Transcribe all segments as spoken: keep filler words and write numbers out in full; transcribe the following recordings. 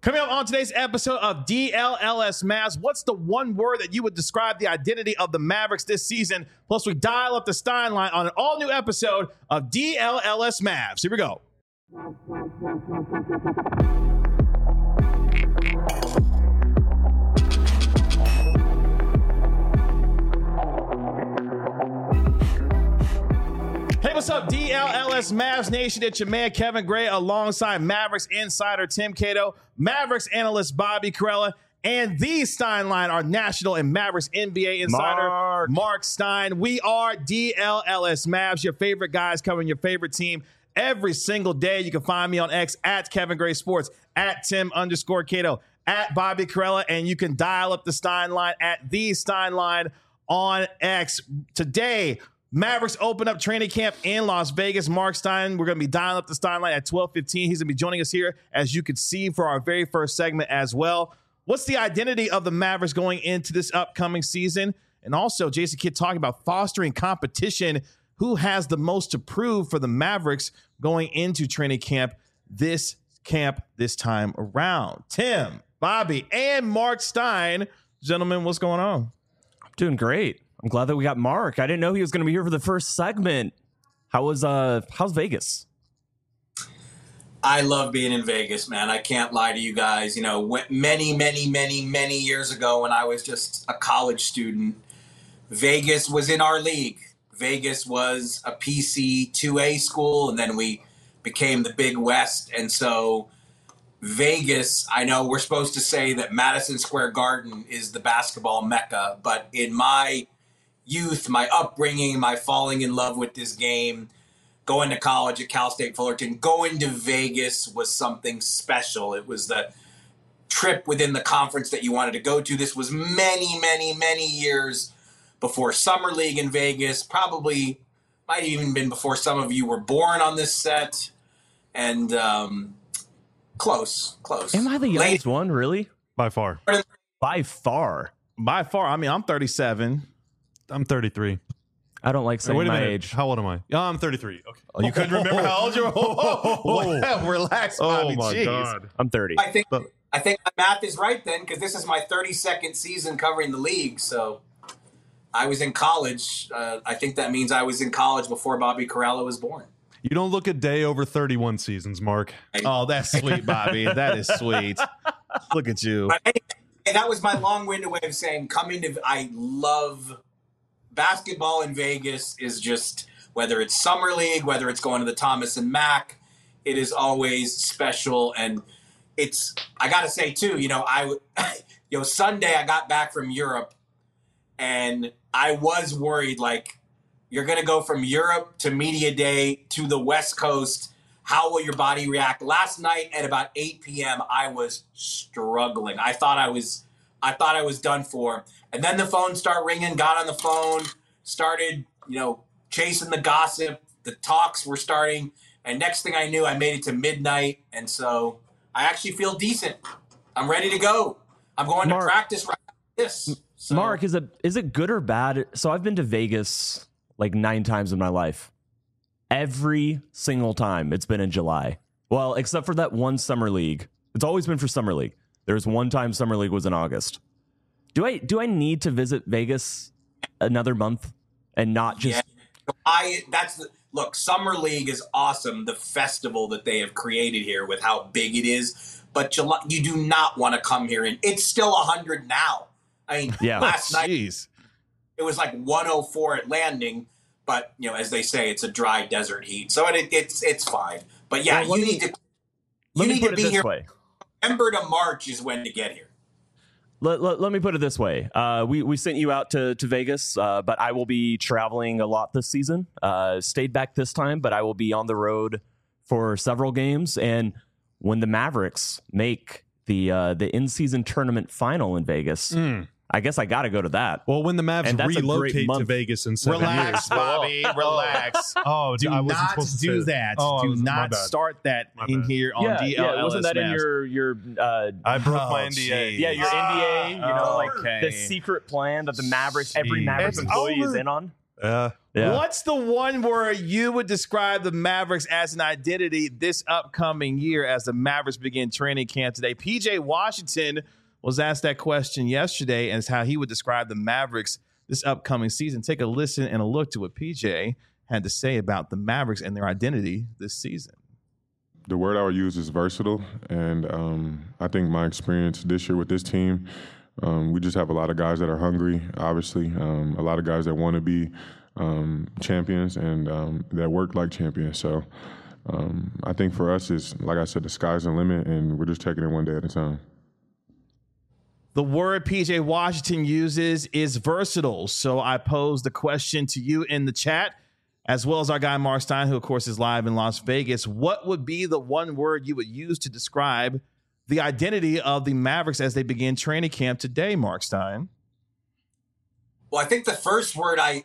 Coming up on today's episode of D L L S Mavs, what's the one word that you would describe the identity of the Mavericks this season? Plus, we dial up the Stein line on an all-new episode of D L L S Mavs. Here we go. Hey, what's up, D L L S Mavs Nation? It's your man, Kevin Gray, alongside Mavericks insider Tim Cato, Mavericks analyst Bobby Karalla, and the Stein line, our national and Mavericks N B A insider, Mark. Mark Stein. We are D L L S Mavs, your favorite guys covering your favorite team every single day. You can find me on X at Kevin Gray Sports, at Tim underscore Cato, at Bobby Karalla, and you can dial up the Stein line at the Stein line on X. Today, Mavericks open up training camp in Las Vegas. Mark Stein, we're going to be dialing up the Stein line at twelve fifteen. He's going to be joining us here, as you could see, for our very first segment as well. What's the identity of the Mavericks going into this upcoming season? And also, Jason Kidd talking about fostering competition. Who has the most to prove for the Mavericks going into training camp this camp this time around? Tim, Bobby, and Mark Stein. Gentlemen, what's going on? I'm doing great. I'm glad that we got Mark. I didn't know he was going to be here for the first segment. How was uh how's Vegas? I love being in Vegas, man. I can't lie to you guys. You know, many, many, many, many years ago when I was just a college student, Vegas was in our league. Vegas was a P C two A school, and then we became the Big West. And so Vegas, I know we're supposed to say that Madison Square Garden is the basketball mecca, but in my youth, my upbringing, my falling in love with this game, going to college at Cal State Fullerton, going to Vegas was something special. It was the trip within the conference that you wanted to go to. This was many, many, many years before Summer League in Vegas, probably might have even been before some of you were born on this set. And um, close, close. Am I the youngest Late. one, really? By far. By far. By far. I mean, I'm thirty-seven. I'm thirty-three. I don't like saying Wait a my minute. age. How old am I? Yeah, I'm thirty-three. Okay. Oh, you couldn't remember how old you were? Oh, oh, relax, Bobby. Oh, my Jeez. God. I'm thirty. I think I think my math is right then, because this is my thirty-second season covering the league. So I was in college. Uh, I think that means I was in college before Bobby Karalla was born. You don't look a day over thirty-one seasons, Mark. Oh, that's sweet, Bobby. That is sweet. Look at you. But anyway, that was my long-winded way of saying coming to – I love basketball in Vegas is just – whether it's Summer League, whether it's going to the Thomas and Mack, it is always special. And it's – I got to say, too, you know, I – you know, Sunday I got back from Europe, and I was worried, like, you're going to go from Europe to Media Day to the West Coast. How will your body react? Last night at about eight p.m., I was struggling. I thought I was I thought I was done for. And then the phone started ringing, got on the phone, started, you know, chasing the gossip. The talks were starting. And next thing I knew, I made it to midnight. And so I actually feel decent. I'm ready to go. I'm going Mark, to practice right after this. So. Mark, is it is it good or bad? So I've been to Vegas like nine times in my life. Every single time it's been in July. Well, except for that one Summer League. It's always been for Summer League. There's one time Summer League was in August. Do I do I need to visit Vegas another month and not just... Yeah, I that's the, look, Summer League is awesome, the festival that they have created here with how big it is. But July, you do not want to come here. And it's still one hundred now. I mean, yeah. last oh, night it was like one oh four at landing. But, you know, as they say, it's a dry desert heat. So it, it's it's fine. But, yeah, well, you me, need to, you need to to be here. Way. November to March is when to get here. Let, let, let me put it this way. Uh, we, we sent you out to, to Vegas, uh, but I will be traveling a lot this season. Uh, stayed back this time, but I will be on the road for several games. And when the Mavericks make the uh, the in-season tournament final in Vegas... Mm. I guess I got to go to that. Well, when the Mavs relocate to Vegas in seven relax, years. Bobby, relax. Oh, do I wasn't not supposed to do say that. Oh, do was, not start that my in bad. here on yeah, D L L S. Yeah, wasn't that Mavs. in your your? Uh, I broke oh, my N D A. Geez. Yeah, your ah, N D A. You know, like okay. the secret plan that the Mavericks, every Mavericks It's employee over. is in on. Yeah. Yeah. What's the one word you would describe the Mavericks as an identity this upcoming year as the Mavericks begin training camp today? P J Washington was asked that question yesterday as how he would describe the Mavericks this upcoming season. Take a listen and a look to what P J had to say about the Mavericks and their identity this season. The word I would use is versatile, and um, I think my experience this year with this team, um, we just have a lot of guys that are hungry, obviously, um, a lot of guys that want to be um, champions and um, that work like champions. So um, I think for us, is like I said, the sky's the limit, and we're just taking it one day at a time. The word P J Washington uses is versatile. So I pose the question to you in the chat, as well as our guy Mark Stein, who, of course, is live in Las Vegas. What would be the one word you would use to describe the identity of the Mavericks as they begin training camp today, Mark Stein? Well, I think the first word I,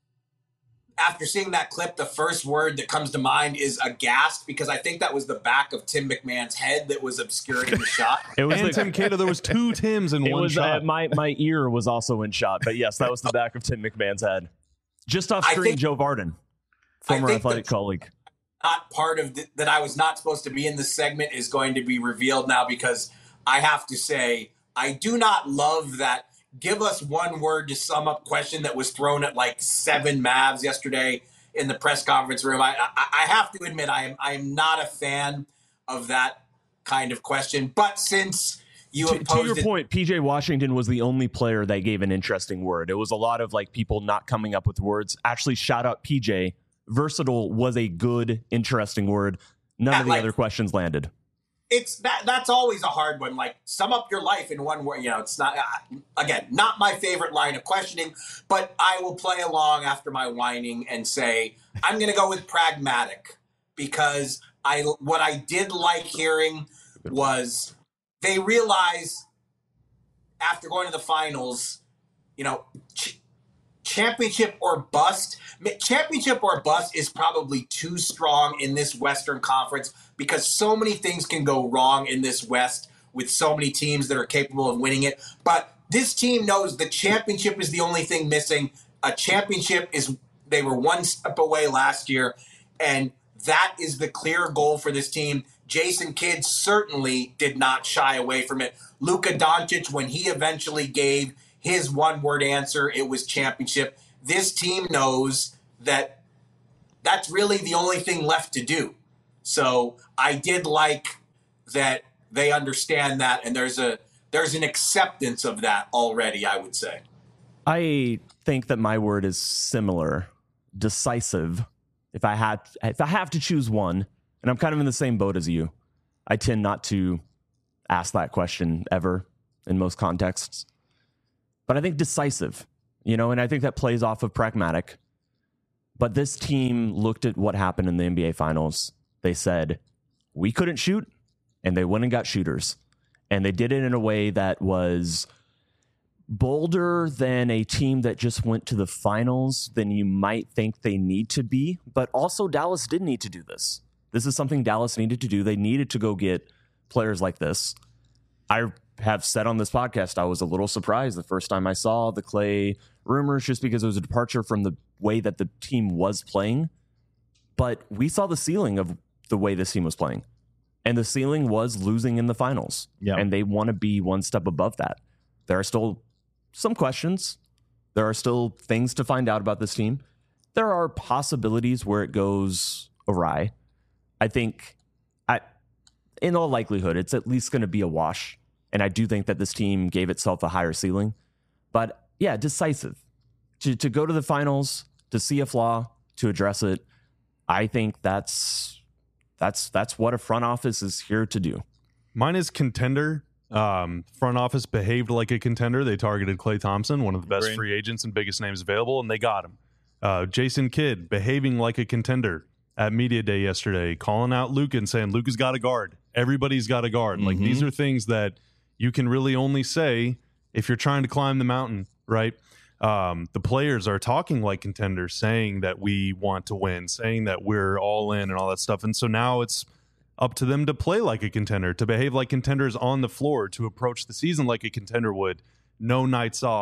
after seeing that clip, the first word that comes to mind is aghast, because I think that was the back of Tim McMahon's head that was obscuring the shot. It was and like, Tim Cato. There was two Tims in it one was, shot. Uh, my, my ear was also in shot. But, yes, that was the back of Tim McMahon's head. Just off screen, think, Joe Varden, former athletic colleague. Not part of the, that I was not supposed to be in this segment is going to be revealed now, because I have to say I do not love that give us one word to sum up question that was thrown at like seven Mavs yesterday in the press conference room. I, I, I have to admit I am I am not a fan of that kind of question. But since you to, have to your it, point, P J Washington was the only player that gave an interesting word. It was a lot of like people not coming up with words. Actually, shout out P J. Versatile was a good, interesting word. None yeah, of the like, other questions landed. It's that that's always a hard one. Like, sum up your life in one word. You know, it's not, uh, again, not my favorite line of questioning, but I will play along after my whining and say, I'm going to go with pragmatic, because I, what I did like hearing was they realize after going to the finals, you know, ch- championship or bust. Championship or bust is probably too strong in this Western Conference, because so many things can go wrong in this West with so many teams that are capable of winning it. But this team knows the championship is the only thing missing. A championship is, they were one step away last year, and that is the clear goal for this team. Jason Kidd certainly did not shy away from it. Luka Doncic, when he eventually gave his one-word answer, it was championship. This team knows that that's really the only thing left to do. So I did like that they understand that, and there's a there's an acceptance of that already, I would say. I think that my word is similar, decisive. If I had, if I have to choose one, and I'm kind of in the same boat as you, I tend not to ask that question ever in most contexts. But I think decisive, you know, and I think that plays off of pragmatic. But this team looked at what happened in the N B A Finals. They said, we couldn't shoot, and they went and got shooters. And they did it in a way that was bolder than a team that just went to the finals than you might think they need to be. But also Dallas did need to do this. This is something Dallas needed to do. They needed to go get players like this. I have said on this podcast, I was a little surprised the first time I saw the Clay rumors, just because it was a departure from the way that the team was playing. But we saw the ceiling of the way this team was playing. And the ceiling was losing in the finals. Yeah. And they want to be one step above that. There are still some questions. There are still things to find out about this team. There are possibilities where it goes awry. I think, I, in all likelihood, it's at least going to be a wash. And I do think that this team gave itself a higher ceiling. But yeah, decisive. To, to go to the finals, to see a flaw, to address it, I think that's that's that's what a front office is here to do. Mine is contender. Um, front office behaved like a contender. They targeted Klay Thompson, one of the best Great. free agents and biggest names available, and they got him. Uh, Jason Kidd behaving like a contender at Media Day yesterday, calling out Luka and saying, Luka's got a guard. Everybody's got a guard. Mm-hmm. Like, these are things that you can really only say if you're trying to climb the mountain, right? Um, the players are talking like contenders, saying that we want to win, saying that we're all in and all that stuff. And so now it's up to them to play like a contender, to behave like contenders on the floor, to approach the season like a contender would. No nights off,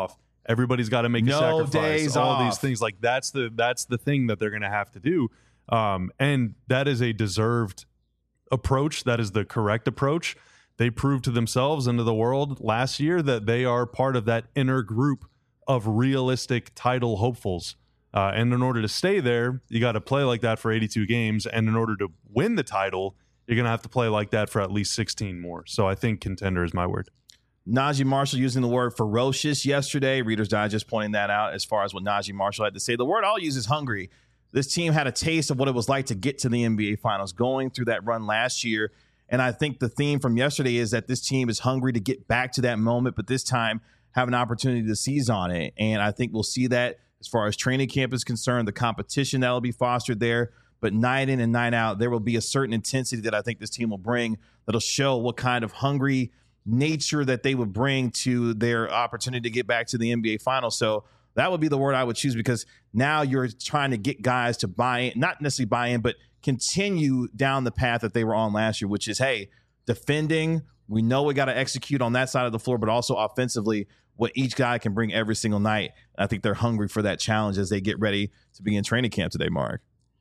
Everybody's got to make No a sacrifice. days all off. these things like that's the that's the thing that they're going to have to do, um, and that is a deserved approach. That is the correct approach. They proved to themselves and to the world last year that they are part of that inner group of realistic title hopefuls. Uh, and in order to stay there, you got to play like that for eighty-two games. And in order to win the title, you're going to have to play like that for at least sixteen more. So I think contender is my word. Najee Marshall using the word ferocious yesterday. Reader's Digest pointing that out as far as what Najee Marshall had to say. The word I'll use is hungry. This team had a taste of what it was like to get to the N B A Finals, going through that run last year. And I think the theme from yesterday is that this team is hungry to get back to that moment, but this time have an opportunity to seize on it. And I think we'll see that as far as training camp is concerned, the competition that will be fostered there. But night in and night out, there will be a certain intensity that I think this team will bring that'll show what kind of hungry nature that they would bring to their opportunity to get back to the N B A Finals. So that would be the word I would choose, because now you're trying to get guys to buy in, not necessarily buy in, but continue down the path that they were on last year, which is, hey, defending, we know we got to execute on that side of the floor, but also offensively, what each guy can bring every single night. I think they're hungry for that challenge as they get ready to begin training camp today, Mark.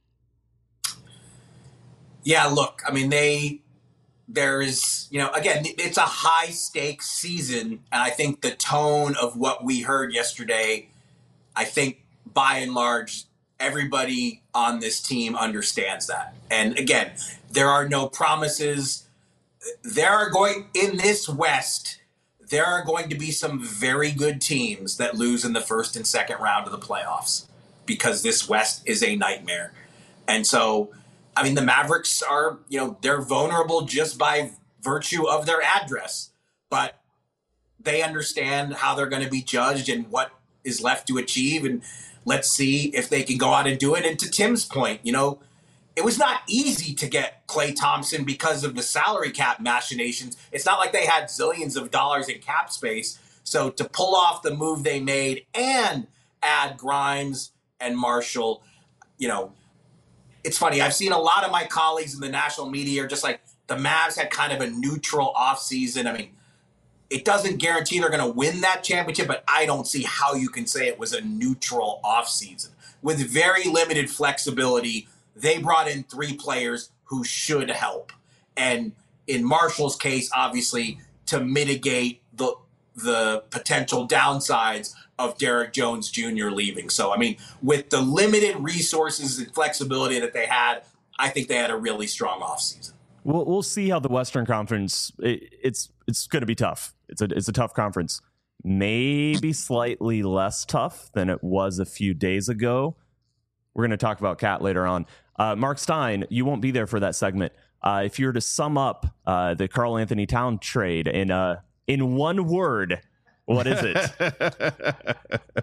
Yeah, look, I mean, they, there is, you know, again, it's a high stakes season. And I think the tone of what we heard yesterday, I think by and large, everybody on this team understands that. And again, there are no promises. There are going, in this West, there are going to be some very good teams that lose in the first and second round of the playoffs, because this West is a nightmare. And so, I mean, the Mavericks are, you know, they're vulnerable just by virtue of their address, but they understand how they're going to be judged and what is left to achieve. And let's see if they can go out and do it. And to Tim's point, you know, it was not easy to get Klay Thompson because of the salary cap machinations. It's not like they had zillions of dollars in cap space. So to pull off the move they made and add Grimes and Marshall, you know, it's funny. I've seen a lot of my colleagues in the national media are just like, the Mavs had kind of a neutral offseason. I mean, it doesn't guarantee they're going to win that championship, but I don't see how you can say it was a neutral offseason. With very limited flexibility, they brought in three players who should help. And in Marshall's case, obviously, to mitigate the the potential downsides of Derek Jones Junior leaving. So, I mean, with the limited resources and flexibility that they had, I think they had a really strong offseason. We'll we'll see how the Western Conference. It, it's it's going to be tough. It's a it's a tough conference. Maybe slightly less tough than it was a few days ago. We're going to talk about Cat later on. Uh, Mark Stein, you won't be there for that segment. Uh, if you were to sum up uh, the Karl Anthony Towns trade in uh in one word, what is it?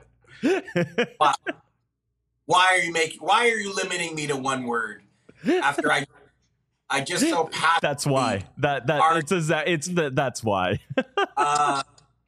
Why, why are you making? Why are you limiting me to one word? After I, I just so passionately. That's why. That that are, it's a, it's the, that's why. uh,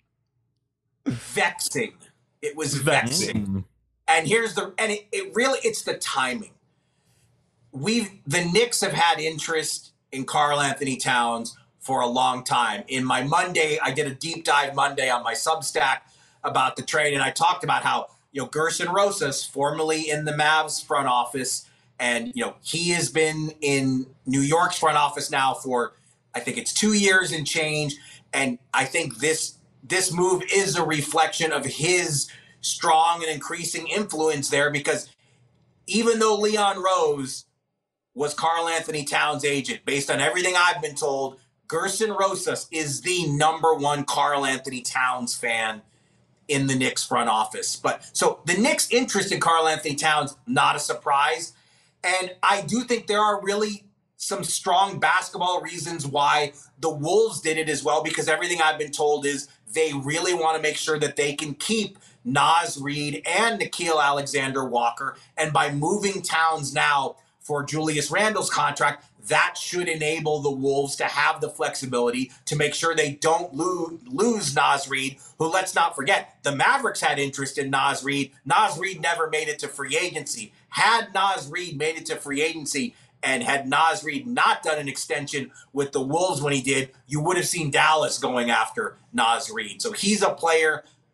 vexing. It was vexing. Mm. And here's the and it, it really it's the timing. We the Knicks have had interest in Karl Anthony Towns for a long time. In my Monday, I did a deep dive Monday on my Substack about the trade, and I talked about how, you know, Gerson Rosas, formerly in the Mavs front office, and, you know, he has been in New York's front office now for, I think it's two years and change. And I think this this move is a reflection of his strong and increasing influence there, because even though Leon Rose was Karl Anthony Towns' agent, based on everything I've been told, Gerson Rosas is the number one Karl Anthony Towns fan in the Knicks front office. But so the Knicks' interest in Karl Anthony Towns, not a surprise. And I do think there are really some strong basketball reasons why the Wolves did it as well, because everything I've been told is they really want to make sure that they can keep Naz Reid and Nickeil Alexander-Walker. And by moving Towns now for Julius Randle's contract, that should enable the Wolves to have the flexibility to make sure they don't lose, lose Naz Reid, who, let's not forget, the Mavericks had interest in Naz Reid. Naz Reid never made it to free agency. Had Naz Reid made it to free agency and had Naz Reid not done an extension with the Wolves when he did, you would have seen Dallas going after Naz Reid. So he's a player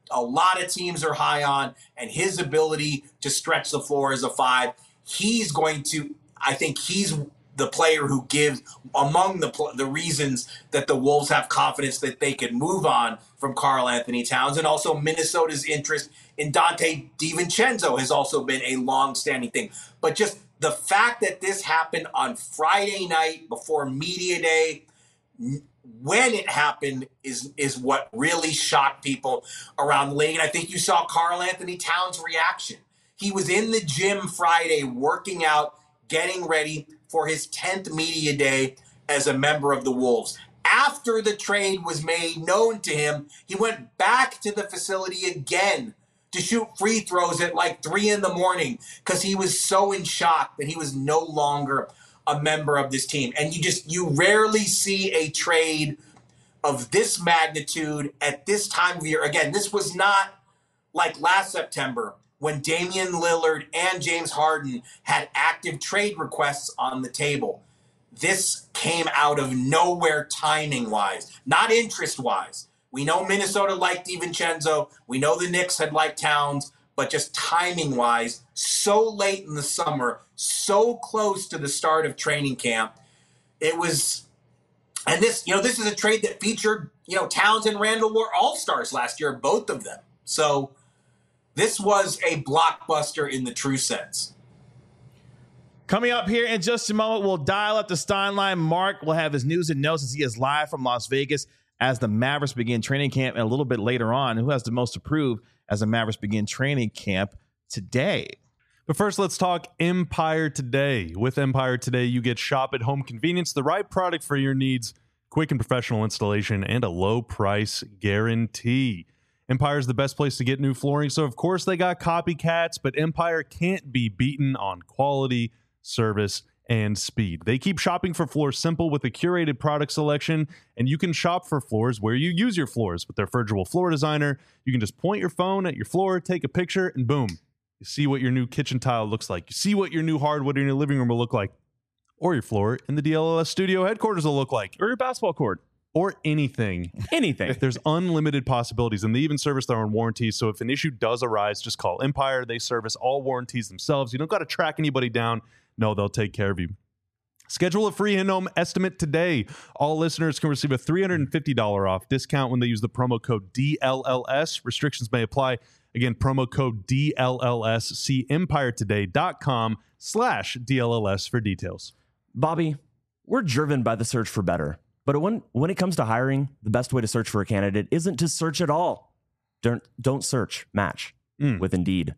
a lot of teams are high on, and his ability to stretch the floor as a five, he's going to, I think he's the player who gives, among the the reasons that the Wolves have confidence that they could move on from Karl Anthony Towns. And also Minnesota's interest in Dante DiVincenzo has also been a long-standing thing. But just the fact that this happened on Friday night before media day, when it happened, is is what really shocked people around the league. And I think you saw Karl Anthony Towns' reaction. He was in the gym Friday working out, getting ready for his tenth media day as a member of the Wolves. After the trade was made known to him, he went back to the facility again to shoot free throws at like three in the morning because he was so in shock that he was no longer a member of this team. And you just, you rarely see a trade of this magnitude at this time of year. Again, this was not like last September when Damian Lillard and James Harden had active trade requests on the table. This came out of nowhere timing-wise, not interest-wise. We know Minnesota liked DiVincenzo. We know the Knicks had liked Towns, but just timing-wise, so late in the summer, so close to the start of training camp, it was. And this, you know, this is a trade that featured, you know, Towns and Randall were all-stars last year, both of them. So this was a blockbuster in the true sense. Coming up here in just a moment, we'll dial up the Steinline. Mark will have his news and notes as he is live from Las Vegas as the Mavericks begin training camp. And a little bit later on, who has the most to prove as the Mavericks begin training camp today. But first, let's talk Empire Today. With Empire Today, you get shop at home convenience, the right product for your needs, quick and professional installation, and a low price guarantee. Empire is the best place to get new flooring, so of course they got copycats, but Empire can't be beaten on quality, service, and speed. They keep shopping for floors simple with a curated product selection, and you can shop for floors where you use your floors with their Virtual Floor Designer. You can just point your phone at your floor, take a picture, and boom, you see what your new kitchen tile looks like. You see what your new hardwood in your living room will look like, or your floor in the D L L S studio headquarters will look like, Or your basketball court. or anything. Anything. There's unlimited possibilities, and they even service their own warranties. So if an issue does arise, just call Empire. They service all warranties themselves. You don't got to track anybody down. No, they'll take care of you. Schedule a free in-home estimate today. All listeners can receive a three hundred fifty dollars off discount when they use the promo code D L L S. Restrictions may apply. Again, promo code D L L S. See empiretoday.com slash DLLS for details. Bobby, we're driven by the search for better. But when, when it comes to hiring, the best way to search for a candidate isn't to search at all. Don't, don't search, match Mm. with Indeed.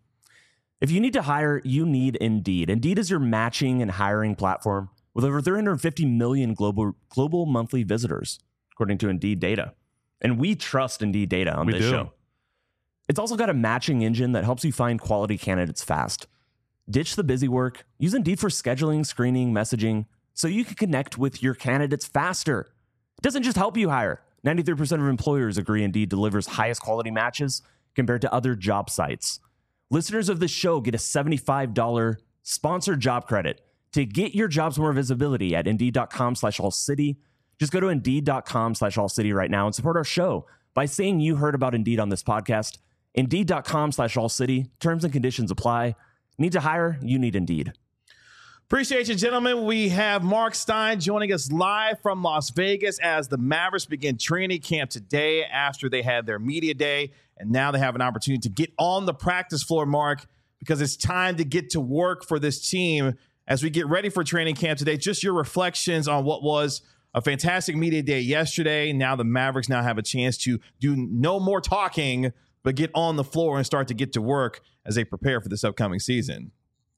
If you need to hire, you need Indeed. Indeed is your matching and hiring platform with over three hundred fifty million global global monthly visitors, according to Indeed data. And we trust Indeed data on We this do. show. It's also got a matching engine that helps you find quality candidates fast. Ditch the busy work. Use Indeed for scheduling, screening, messaging, so you can connect with your candidates faster. It doesn't just help you hire. ninety-three percent of employers agree Indeed delivers highest quality matches compared to other job sites. Listeners of this show get a seventy-five dollars sponsored job credit to get your jobs more visibility at Indeed.com slash All City. Just go to Indeed.com slash All City right now and support our show by saying you heard about Indeed on this podcast. Indeed.com slash All City. Terms and conditions apply. Need to hire? You need Indeed. Appreciate you, gentlemen. We have Mark Stein joining us live from Las Vegas as the Mavericks begin training camp today after they had their media day. And now they have an opportunity to get on the practice floor, Mark, because it's time to get to work for this team as we get ready for training camp today. Just your reflections on what was a fantastic media day yesterday. Now the Mavericks now have a chance to do no more talking, but get on the floor and start to get to work as they prepare for this upcoming season.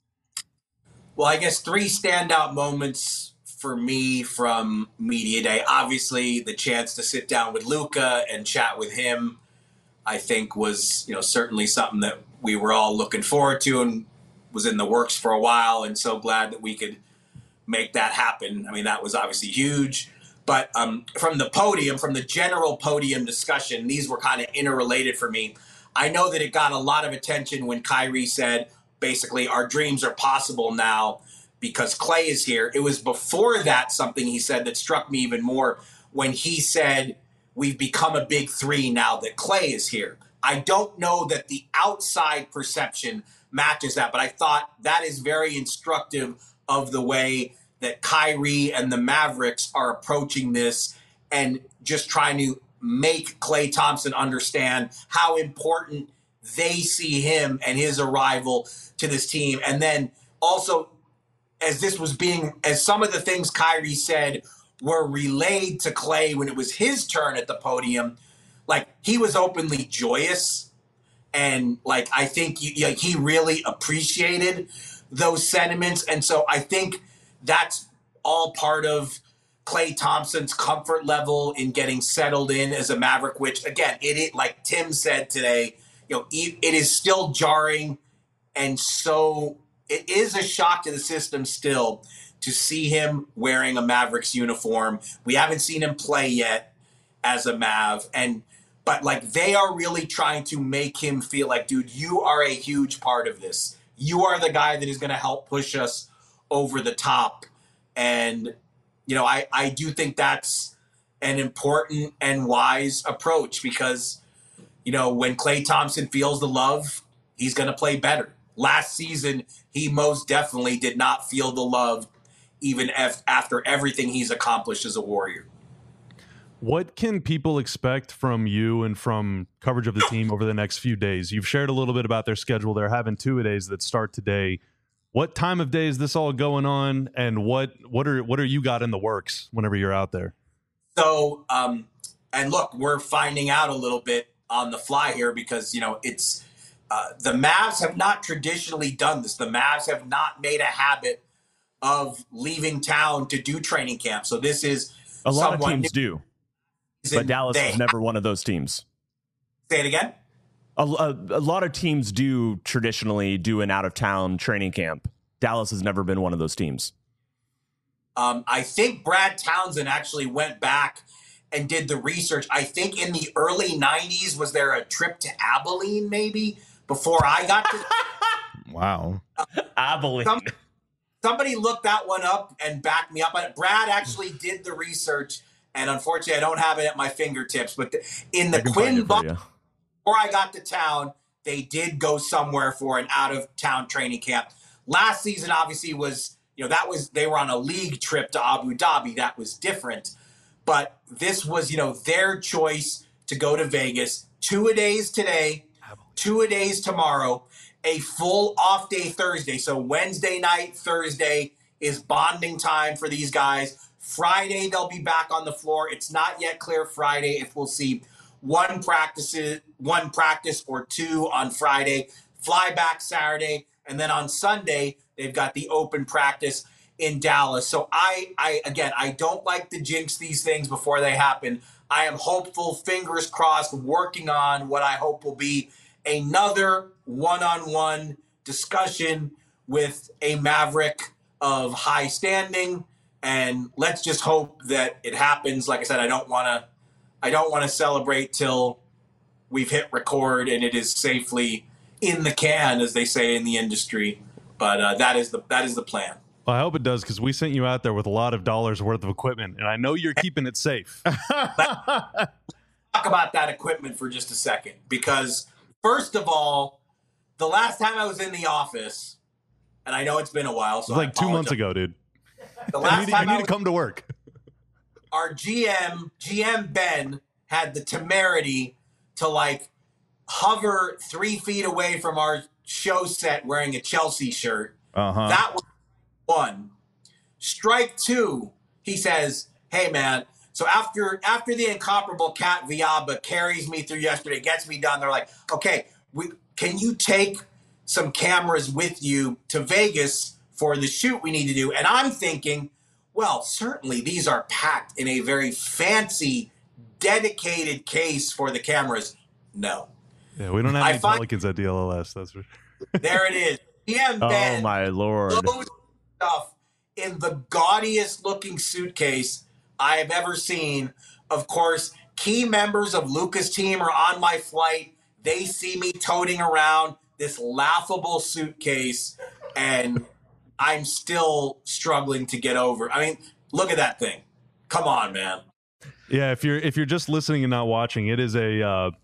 Well, I guess three standout moments for me from media day. Obviously, the chance to sit down with Luka and chat with him, I think was, you know, certainly something that we were all looking forward to and was in the works for a while. And so glad that we could make that happen. I mean, that was obviously huge. But um, from the podium, from the general podium discussion, these were kind of interrelated for me. I know that it got a lot of attention when Kyrie said, basically, our dreams are possible now because Klay is here. It was before that something he said that struck me even more when he said, we've become a big three now that Klay is here. I don't know that the outside perception matches that, but I thought that is very instructive of the way that Kyrie and the Mavericks are approaching this and just trying to make Klay Thompson understand how important they see him and his arrival to this team. And then also, as this was being, as some of the things Kyrie said were relayed to Klay when it was his turn at the podium, like he was openly joyous. And like, I think he, like, he really appreciated those sentiments. And so I think that's all part of Klay Thompson's comfort level in getting settled in as a Maverick, which again, it, it like Tim said today, you know, it, it is still jarring. And so it is a shock to the system still to see him wearing a Mavericks uniform. We haven't seen him play yet as a Mav. And, but like, they are really trying to make him feel like, dude, you are a huge part of this. You are the guy that is going to help push us over the top. And, you know, I, I do think that's an important and wise approach because, you know, when Klay Thompson feels the love, he's going to play better. Last season, he most definitely did not feel the love, even if, after everything he's accomplished as a Warrior. What can people expect from you and from coverage of the team over the next few days? You've shared a little bit about their schedule. They're having two-a-days that start today. What time of day is this all going on, and what what are what are you got in the works whenever you're out there? So, um, and look, we're finding out a little bit on the fly here because, you know, it's uh, the Mavs have not traditionally done this. The Mavs have not made a habit of leaving town to do training camp. So this is a lot of teams new. do, but Dallas they, is never one of those teams. Say it again. A, a, a lot of teams do traditionally do an out-of-town training camp. Dallas has never been one of those teams. Um, I think Brad Townsend actually went back and did the research. I think in the early nineties, was there a trip to Abilene maybe before I got to? Wow. Uh, Abilene. Some, somebody looked that one up and backed me up on it. Brad actually did the research, and unfortunately, I don't have it at my fingertips. But the, in the Quinn Buck. Before I got to town, they did go somewhere for an out-of-town training camp. Last season, obviously, was, you know, that was, they were on a league trip to Abu Dhabi. That was different. But this was, you know, their choice to go to Vegas. Two-a-days today, two-a-days tomorrow, a full off-day Thursday. So Wednesday night, Thursday is bonding time for these guys. Friday, they'll be back on the floor. It's not yet clear Friday if we'll see one practice, one practice or two on Friday, fly back Saturday, and then on Sunday they've got the open practice in Dallas. So I, I again, I don't like to jinx these things before they happen. I am hopeful, fingers crossed, working on what I hope will be another one-on-one discussion with a Maverick of high standing, and let's just hope that it happens. Like I said, I don't want to. I don't want to celebrate till we've hit record and it is safely in the can, as they say in the industry. But uh, that is the that is the plan. Well, I hope it does, because we sent you out there with a lot of dollars worth of equipment, and I know you're keeping it safe. Talk about that equipment for just a second, because first of all, the last time I was in the office, and I know it's been a while, so it was like two months ago, dude. The last you need, time you need I was, to come to work. Our G M, G M Ben, had the temerity to like hover three feet away from our show set wearing a Chelsea shirt. Uh-huh. That was one. Strike two, he says, hey, man, so after after the incomparable Cat Viaba carries me through yesterday, gets me done, they're like, okay, we, can you take some cameras with you to Vegas for the shoot we need to do? And I'm thinking, well, certainly these are packed in a very fancy, dedicated case for the cameras. No. Yeah, we don't have I any find, Pelicans at D L L S. That's for there it is. G M Ben, oh, my Lord. Those stuff in the gaudiest looking suitcase I have ever seen. Of course, key members of Luca's team are on my flight. They see me toting around this laughable suitcase, and I'm still struggling to get over. I mean, look at that thing. Come on, man. Yeah, if you're if you're just listening and not watching, it is a uh,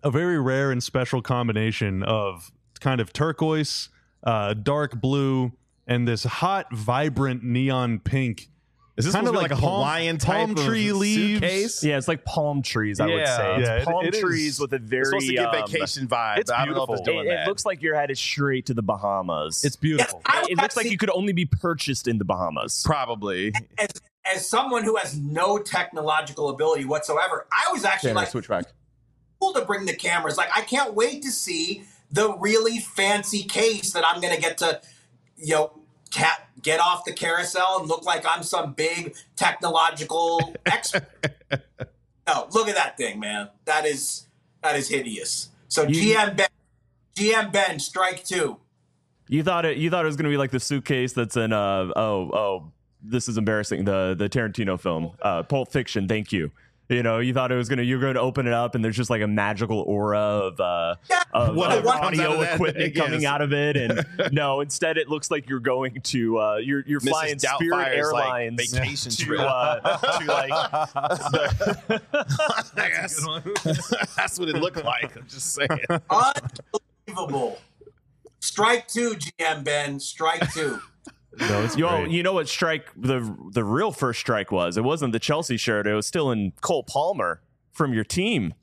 a very rare and special combination of kind of turquoise, uh, dark blue, and this hot, vibrant neon pink. Is this kind of like, like a palm, Hawaiian type palm tree of leaves? suitcase? Yeah, it's like palm trees, I would Yeah. say. It's Yeah, it- palm it trees is- with a very... It's supposed to give um, vacation vibe. it's I don't know if it's beautiful. doing It, that. it looks like you're headed straight to the Bahamas. It's beautiful. Yes, I it, it looks like you could only be purchased in the Bahamas. probably. as, as someone who has no technological ability whatsoever, I was actually like switch back. cool to bring the cameras. Like, I can't wait to see the really fancy case that I'm going to get to, you know, cat, get off the carousel and look like I'm some big technological expert. No, look at that thing, man. That is that is hideous. So You- G M Ben, G M Ben, strike two. You thought it. You thought it was going to be like the suitcase that's in. Uh, oh, oh, this is embarrassing. The the Tarantino film, uh, Pulp Fiction. Thank you. You know, you thought it was gonna. You're going to open it up, and there's just like a magical aura of uh, Yeah. of, Whatever of comes out audio of that, equipment yes. coming out of it, and no, instead it looks like you're going to. Uh, you're you're flying Missus Spirit Doubtfire's, like, Airlines vacation to, trip. uh, to like. I guess. That's what it looked like. I'm just saying. Unbelievable. Strike two, G M Ben. Strike two. No, it's You know, great. you know what strike the the real first strike was? It wasn't the Chelsea shirt. It was still in Cole Palmer from your team.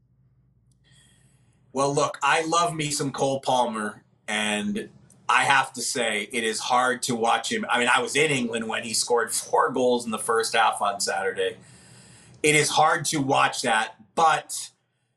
Well, look, I love me some Cole Palmer, and I have to say it is hard to watch him. I mean, I was in England when he scored four goals in the first half on Saturday. It is hard to watch that, but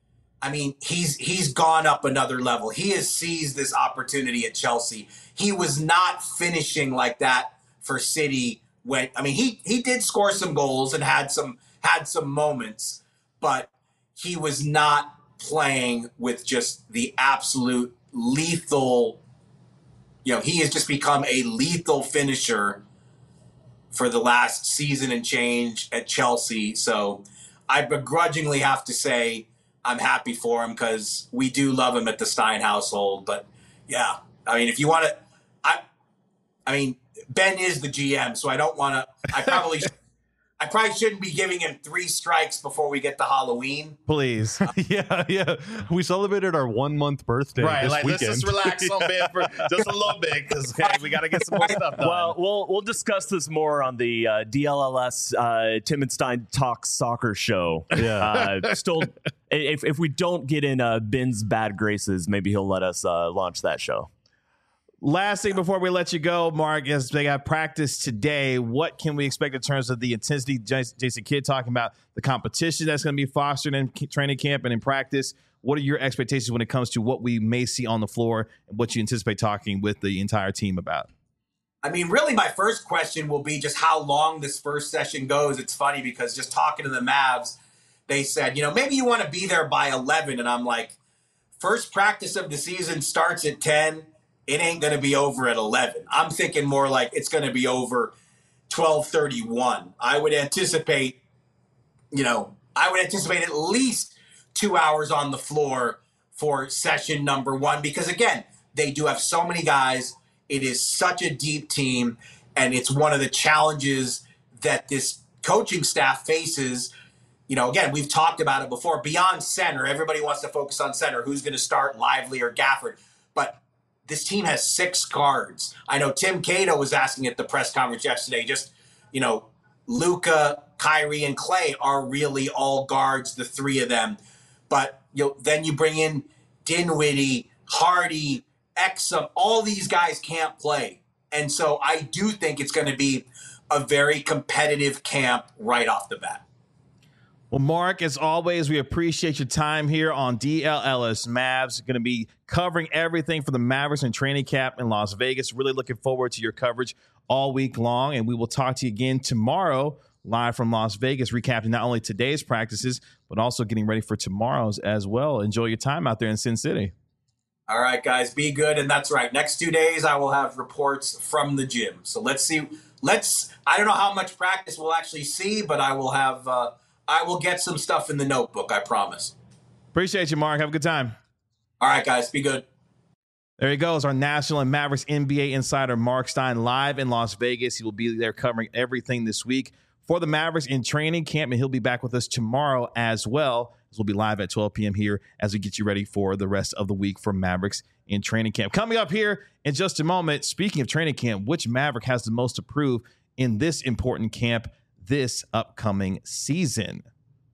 I mean, he's he's gone up another level. He has seized this opportunity at Chelsea. He was not finishing like that for City when I mean, he he did score some goals and had some had some moments, but he was not playing with just the absolute lethal, you know, he has just become a lethal finisher for the last season and change at Chelsea. So I begrudgingly have to say I'm happy for him because we do love him at the Stein household. But yeah, I mean, if you want to, I, I mean, Ben is the G M, so I don't want to, I probably I probably shouldn't be giving him three strikes before we get to Halloween. Please. yeah, yeah. We celebrated our one month birthday Right, this like weekend. let's just relax on Ben for just a little bit because we got to get some more stuff done. Well, we'll we'll discuss this more on the uh, D L L S uh, Tim and Stein Talks Soccer show. Yeah. Uh, still, if if we don't get in uh, Ben's bad graces, maybe he'll let us uh, launch that show. Last thing before we let you go, Mark, as they got practice today, what can we expect in terms of the intensity? Jason Kidd talking about the competition that's going to be fostered in training camp and in practice. What are your expectations when it comes to what we may see on the floor and what you anticipate talking with the entire team about? I mean, really, my first question will be just how long this first session goes. It's funny because just talking to the Mavs, they said, you know, maybe you want to be there by eleven. And I'm like, first practice of the season starts at ten. It ain't going to be over at eleven. I'm thinking more like it's going to be over twelve thirty-one. I would anticipate, you know, I would anticipate at least two hours on the floor for session number one because, again, they do have so many guys. It is such a deep team, and it's one of the challenges that this coaching staff faces. You know, again, we've talked about it before. Beyond center, everybody wants to focus on center. Who's going to start, Lively or Gafford? But this team has six guards. I know Tim Cato was asking at the press conference yesterday, just, you know, Luka, Kyrie, and Clay are really all guards, the three of them. But you know, then you bring in Dinwiddie, Hardy, Exum. All these guys can't play. And so I do think it's going to be a very competitive camp right off the bat. Well, Mark, as always, we appreciate your time here on D L L S Mavs. Going to be covering everything for the Mavericks and training camp in Las Vegas. Really looking forward to your coverage all week long. And we will talk to you again tomorrow, live from Las Vegas, recapping not only today's practices, but also getting ready for tomorrow's as well. Enjoy your time out there in Sin City. All right, guys, be good. And that's right. Next two days, I will have reports from the gym. So let's see. Let's, I don't know how much practice we'll actually see, but I will have, uh, I will get some stuff in the notebook, I promise. Appreciate you, Mark. Have a good time. All right, guys, be good. There he goes, our National and Mavericks N B A insider, Mark Stein, live in Las Vegas. He will be there covering everything this week for the Mavericks in training camp, and he'll be back with us tomorrow as well. This will be live at twelve p.m. here as we get you ready for the rest of the week for Mavericks in training camp. Coming up here in just a moment, speaking of training camp, which Maverick has the most to prove in this important camp this upcoming season?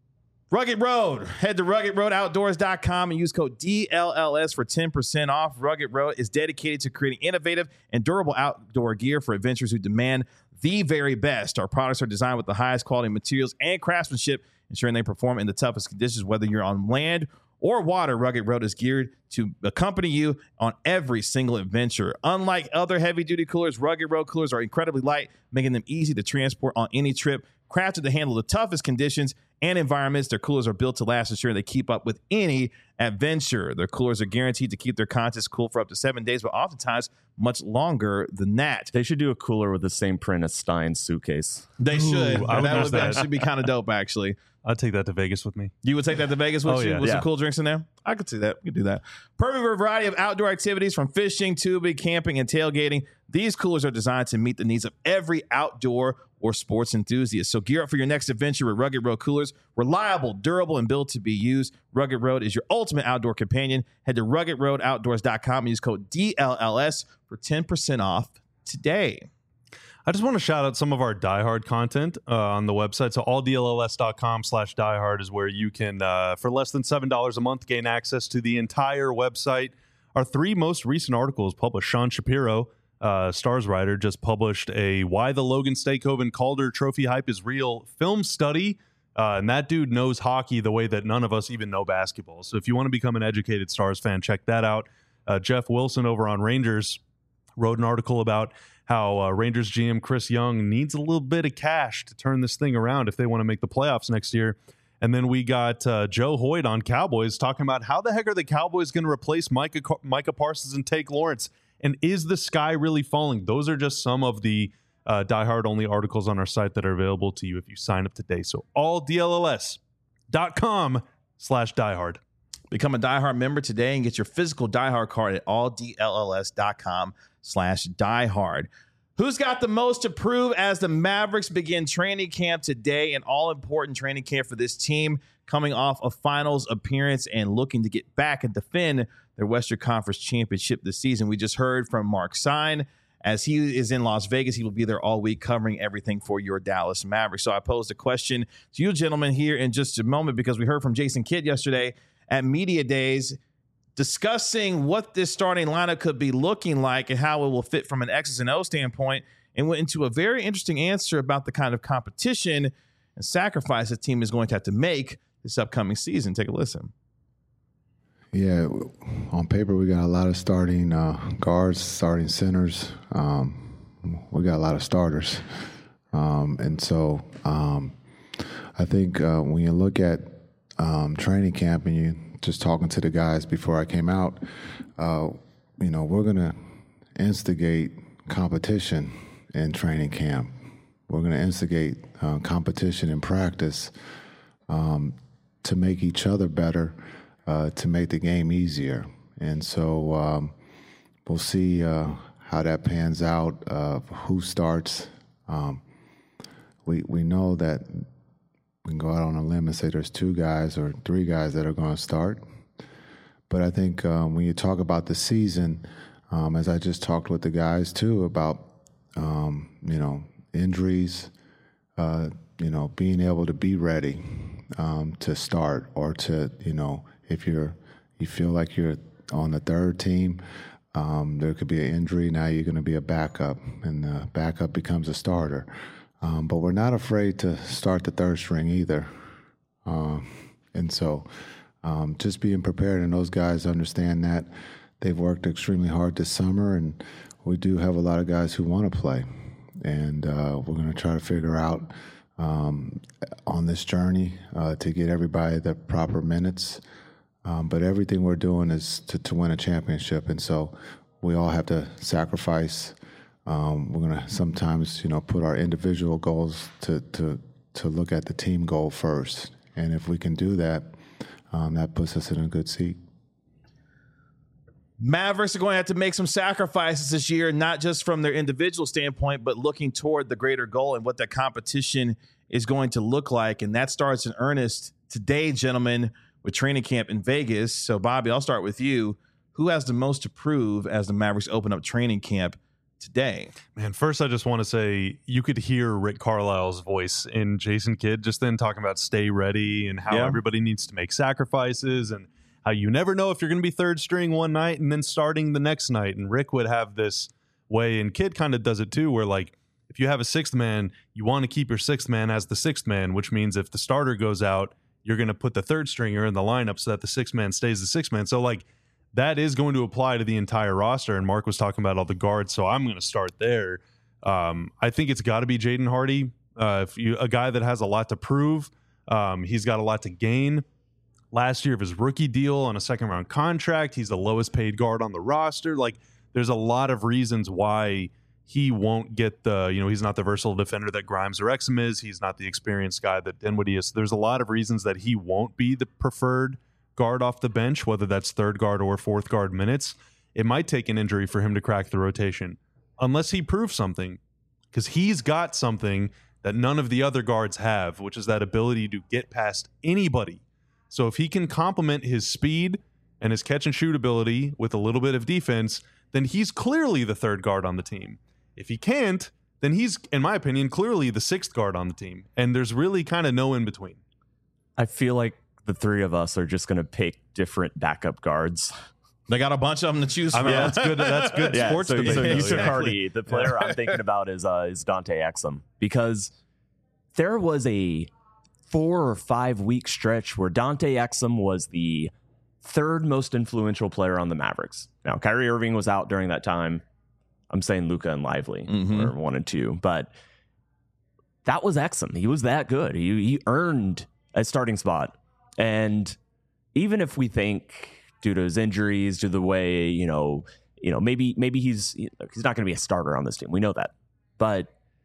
Rugged Road. Head to rugged road outdoors dot com and use code D L L S for ten percent off. Rugged Road is dedicated to creating innovative and durable outdoor gear for adventurers who demand the very best. Our products are designed with the highest quality materials and craftsmanship, ensuring they perform in the toughest conditions, whether you're on land or water. Rugged Road is geared to accompany you on every single adventure. Unlike other heavy-duty coolers, Rugged Road coolers are incredibly light, making them easy to transport on any trip. Crafted to handle the toughest conditions and environments, their coolers are built to last, ensuring they keep up with any adventure. Their coolers are guaranteed to keep their contents cool for up to seven days, but oftentimes much longer than that. They should do a cooler with the same print as Stein's suitcase. They should. Ooh, I would that miss would that. actually be kind of dope, actually. I'd take that to Vegas with me. You would take that to Vegas with Oh, you yeah. with Yeah. some cool drinks in there? I could see that. We could do that. Perfect for a variety of outdoor activities from fishing, tubing, camping, and tailgating. These coolers are designed to meet the needs of every outdoor or sports enthusiast. So gear up for your next adventure with Rugged Road coolers. Reliable, durable, and built to be used. Rugged Road is your ultimate outdoor companion. Head to rugged road outdoors dot com and use code D L L S for ten percent off today. I just want to shout out some of our diehard content uh, on the website. So all D L L S dot com slash diehard is where you can, uh, for less than seven dollars a month, gain access to the entire website. Our three most recent articles published. Sean Shapiro, uh, Stars writer, just published a Why the Logan Stakehoven Calder Trophy Hype is Real film study. Uh, and that dude knows hockey the way that none of us even know basketball. So if you want to become an educated Stars fan, check that out. Uh, Jeff Wilson over on Rangers wrote an article about how uh, Rangers G M Chris Young needs a little bit of cash to turn this thing around if they want to make the playoffs next year. And then we got uh, Joe Hoyt on Cowboys talking about how the heck are the Cowboys going to replace Micah, Micah Parsons and Take Lawrence? And is the sky really falling? Those are just some of the uh, diehard-only articles on our site that are available to you if you sign up today. So all D L L S dot com slash diehard. Become a diehard member today and get your physical diehard card at all D L L S dot com slash diehard. Who's got the most to prove as the Mavericks begin training camp today? An all-important training camp for this team coming off a finals appearance and looking to get back and defend their Western Conference championship this season. We just heard from Mark Stein. As he is in Las Vegas, he will be there all week covering everything for your Dallas Mavericks. So I posed a question to you gentlemen here in just a moment because we heard from Jason Kidd yesterday at Media Days discussing what this starting lineup could be looking like and how it will fit from an X's and O standpoint, and went into a very interesting answer about the kind of competition and sacrifice the team is going to have to make this upcoming season. Take a listen. Yeah, on paper we got a lot of starting uh, guards, starting centers. Um, we got a lot of starters, um, and so um, I think uh, when you look at um, training camp and you just talking to the guys before I came out, uh, you know, we're gonna instigate competition in training camp. We're gonna instigate uh, competition in practice um, to make each other better. Uh, to make the game easier. And so um, we'll see uh, how that pans out, uh, who starts. Um, we we know that we can go out on a limb and say there's two guys or three guys that are going to start. But I think um, when you talk about the season, um, as I just talked with the guys too about, um, you know, injuries, uh, you know, being able to be ready um, to start or to, you know, if you're, you feel like you're on the third team, um, there could be an injury. Now you're going to be a backup, and the backup becomes a starter. Um, but we're not afraid to start the third string either. Um, and so um, just being prepared, and those guys understand that. They've worked extremely hard this summer, and we do have a lot of guys who want to play. And uh, we're going to try to figure out um, on this journey uh, to get everybody the proper minutes. Um, but everything we're doing is to, to win a championship, and so we all have to sacrifice. Um, we're going to sometimes, you know, put our individual goals to, to to look at the team goal first, and if we can do that, um, that puts us in a good seat. Mavericks are going to have to make some sacrifices this year, not just from their individual standpoint, but looking toward the greater goal and what that competition is going to look like, and that starts in earnest today, gentlemen, with training camp in Vegas. So, Bobby, I'll start with you. Who has the most to prove as the Mavericks open up training camp today? Man, first I just want to say you could hear Rick Carlisle's voice in Jason Kidd just then talking about stay ready and how Yeah. everybody needs to make sacrifices and how you never know if you're going to be third string one night and then starting the next night. And Rick would have this way, and Kidd kind of does it too, where like if you have a sixth man, you want to keep your sixth man as the sixth man, which means if the starter goes out, you're going to put the third stringer in the lineup so that the sixth man stays the sixth man. So like that is going to apply to the entire roster. And Mark was talking about all the guards, so I'm going to start there. Um, I think it's got to be Jaden Hardy, uh, if you, a guy that has a lot to prove. Um, he's got a lot to gain. Last year of his rookie deal on a second round contract, he's the lowest paid guard on the roster. Like there's a lot of reasons why he won't get the, you know, he's not the versatile defender that Grimes or Exum is. He's not the experienced guy that Dinwiddie is. So there's a lot of reasons that he won't be the preferred guard off the bench, whether that's third guard or fourth guard minutes. It might take an injury for him to crack the rotation, unless he proves something, because he's got something that none of the other guards have, which is that ability to get past anybody. So if he can complement his speed and his catch and shoot ability with a little bit of defense, then he's clearly the third guard on the team. If he can't, then he's, in my opinion, clearly the sixth guard on the team. And there's really kind of no in between. I feel like the three of us are just going to pick different backup guards. They got a bunch of them to choose I from. mean, that's good. That's good Yeah, sports so, debate. so you though, took yeah. Hardy. The player I'm thinking about is uh, is Dante Exum, because there was a four or five week stretch where Dante Exum was the third most influential player on the Mavericks. Now, Kyrie Irving was out during that time. I'm saying Luka and Lively Mhm. were one and two, but that was Exum. He was that good. He, he earned a starting spot. And even if we think due to his injuries, due to the way, you know, you know, maybe maybe he's he's not going to be a starter on this team. We know that. But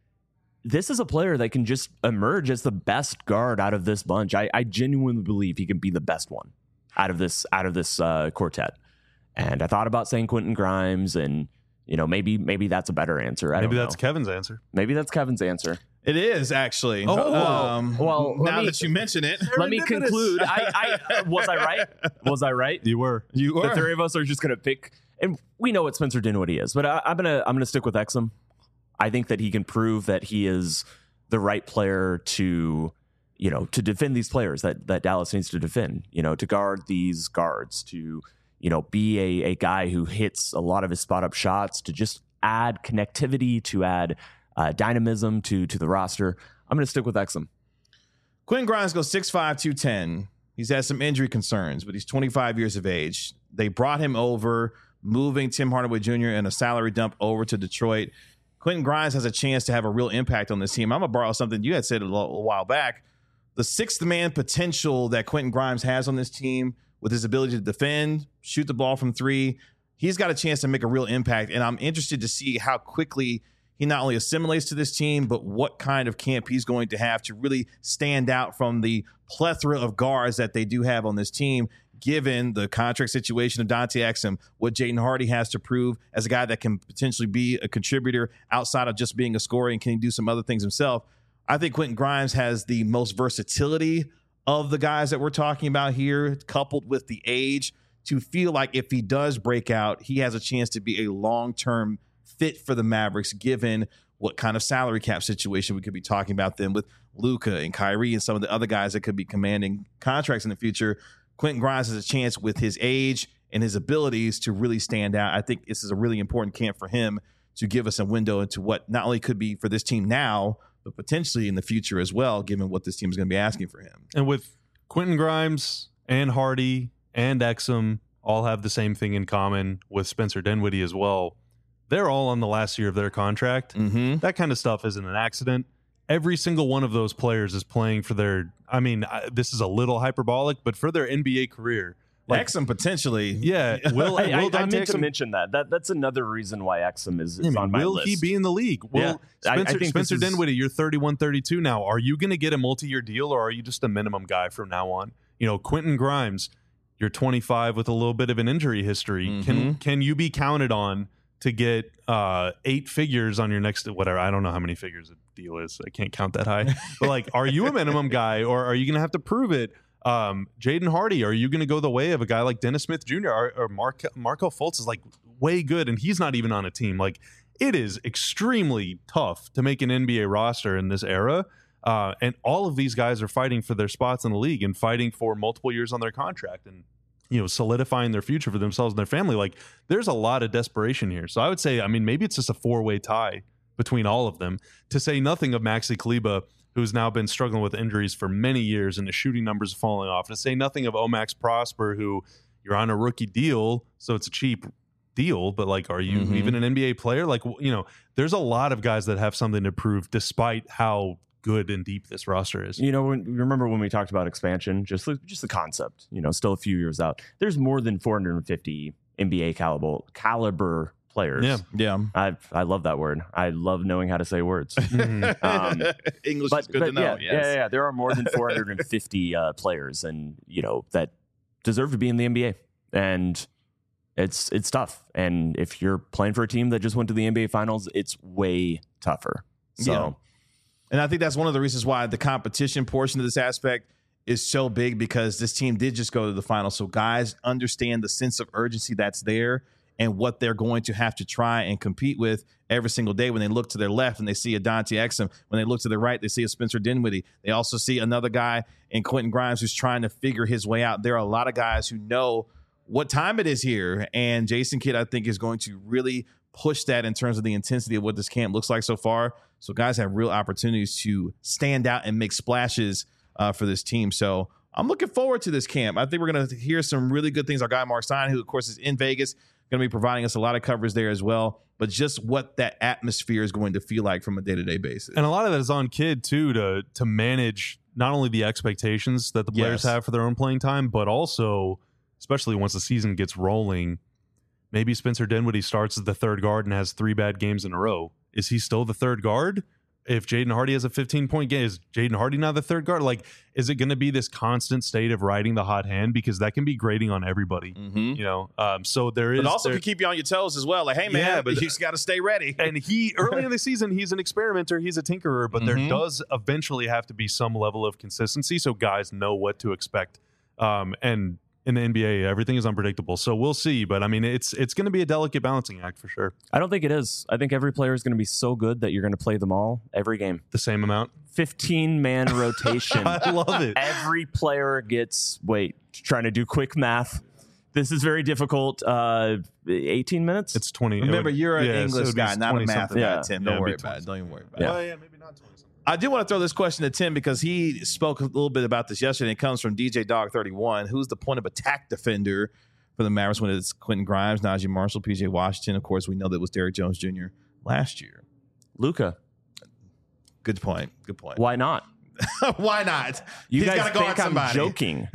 this is a player that can just emerge as the best guard out of this bunch. I, I genuinely believe he can be the best one out of this out of this uh, quartet. And I thought about saying Quentin Grimes, and you know, maybe maybe that's a better answer. I Maybe don't that's know. Kevin's answer. Maybe that's Kevin's answer. It is actually. Oh, um, well, let now me- that you mention it, Let me conclude. I, I was I right? Was I right? You were. You The are. three of us are just going to pick, and we know what Spencer Dinwiddie is, but I, I'm gonna I'm gonna stick with Exum. I think that he can prove that he is the right player to, you know, to defend these players that that Dallas needs to defend. You know, to guard these guards, to, you know, be a a guy who hits a lot of his spot up shots, to just add connectivity, to add uh, dynamism to to the roster. I'm going to stick with Exum. Quentin Grimes goes six five, two ten. He's had some injury concerns, but he's twenty-five years of age. They brought him over, moving Tim Hardaway Junior and a salary dump over to Detroit. Quentin Grimes has a chance to have a real impact on this team. I'm going to borrow something you had said a, little, a while back. The sixth man potential that Quentin Grimes has on this team with his ability to defend, shoot the ball from three, he's got a chance to make a real impact. And I'm interested to see how quickly he not only assimilates to this team, but what kind of camp he's going to have to really stand out from the plethora of guards that they do have on this team, given the contract situation of Dante Exum, what Jaden Hardy has to prove as a guy that can potentially be a contributor outside of just being a scorer, and can he do some other things himself. I think Quentin Grimes has the most versatility of the guys that we're talking about here, coupled with the age, to feel like if he does break out, he has a chance to be a long-term fit for the Mavericks, given what kind of salary cap situation we could be talking about then with Luka and Kyrie and some of the other guys that could be commanding contracts in the future. Quentin Grimes has a chance with his age and his abilities to really stand out. I think this is a really important camp for him to give us a window into what not only could be for this team now, but potentially in the future as well, given what this team is going to be asking for him. And with Quentin Grimes and Hardy and Exum all have the same thing in common, with Spencer Dinwiddie as well. They're all on the last year of their contract. Mm-hmm. That kind of stuff isn't an accident. Every single one of those players is playing for their, I mean, I, this is a little hyperbolic, but for their N B A career. Like, Exum potentially. yeah. Will, I, I, will I Dante meant to Exum- mention that. That that's another reason why Exum is, is I mean, on my will list. he be in the league? Will Yeah. I- I Spencer, think Spencer this is- Dinwiddie, you're thirty-one, thirty-two now. Are you going to get a multi-year deal, or are you just a minimum guy from now on? You know, Quentin Grimes, you're twenty-five with a little bit of an injury history. Mm-hmm. Can can you be counted on to get uh, eight figures on your next whatever? I don't know how many figures a deal is. I can't count that high. But like, are you a minimum guy, or are you going to have to prove it? Um, Jaden Hardy, are you going to go the way of a guy like Dennis Smith Junior or, or Mark, Marco Fultz is like way good, and he's not even on a team. Like, it is extremely tough to make an N B A roster in this era. Uh, and all of these guys are fighting for their spots in the league and fighting for multiple years on their contract and, you know, solidifying their future for themselves and their family. Like, there's a lot of desperation here. So I would say, I mean, maybe it's just a four-way tie between all of them, to say nothing of Maxi Kleber, who's now been struggling with injuries for many years and the shooting numbers are falling off. To say nothing of Omax Prosper, who you're on a rookie deal, so it's a cheap deal, but like, are you mm-hmm. even an N B A player? Like, you know, there's a lot of guys that have something to prove despite how good and deep this roster is. You know, when, remember when we talked about expansion, just just the concept, you know, still a few years out. There's more than four hundred fifty N B A caliber caliber players. Yeah, yeah. I I love that word. I love knowing how to say words. Mm-hmm. um, English but, is good but to know. Yeah, yes. yeah, yeah. There are more than four hundred fifty uh, players, and you know that deserve to be in the N B A, and it's it's tough. And if you're playing for a team that just went to the N B A Finals, it's way tougher. So, yeah. And I think that's one of the reasons why the competition portion of this aspect is so big, because this team did just go to the finals. So guys understand the sense of urgency that's there and what they're going to have to try and compete with every single day. When they look to their left and they see a Dante Exum, when they look to their right, they see a Spencer Dinwiddie. They also see another guy in Quentin Grimes who's trying to figure his way out. There are a lot of guys who know what time it is here. And Jason Kidd, I think, is going to really push that in terms of the intensity of what this camp looks like so far. So guys have real opportunities to stand out and make splashes uh, for this team. So I'm looking forward to this camp. I think we're going to hear some really good things. Our guy, Mark Stein, who, of course, is in Vegas, going to be providing us a lot of coverage there as well. But just what that atmosphere is going to feel like from a day-to-day basis. And a lot of that is on Kidd, too, to to manage not only the expectations that the players Yes. have for their own playing time, but also, especially once the season gets rolling, maybe Spencer Dinwiddie starts as the third guard and has three bad games in a row. Is he still the third guard? If Jaden Hardy has a fifteen-point game, is Jaden Hardy now the third guard? Like, is it going to be this constant state of riding the hot hand? Because that can be grating on everybody, Mm-hmm. you know? Um, so there is... But also there, can keep you on your toes as well. Like, hey, man, Yeah, but but- you just got to stay ready. and he, early in the season, he's an experimenter, he's a tinkerer, but Mhm. there does eventually have to be some level of consistency so guys know what to expect. Um, and in the N B A, everything is unpredictable. So we'll see. But I mean, it's it's going to be a delicate balancing act for sure. I don't think it is. I think every player is going to be so good that you're going to play them all every game. The same amount. fifteen man rotation. I love it. Every player gets, wait, trying to do quick math. This is very difficult. Uh, eighteen minutes? It's twenty. Remember, it would- you're an yeah, so it English would be guy, not a twenty math something. guy, Yeah. Tim. Yeah, Don't it'd worry be about it. twenty. Don't even worry about Yeah. it. Oh, yeah, maybe not twenty something. I do want to throw this question to Tim because he spoke a little bit about this yesterday. It comes from D J Dog thirty-one. Who's the point of attack defender for the Mavericks when it's Quentin Grimes, Najee Marshall, P J Washington? Of course, we know that was Derrick Jones Junior last year. Luka. Good point. Good point. Why not? Why not? You He's guys gotta guard think I'm somebody. joking,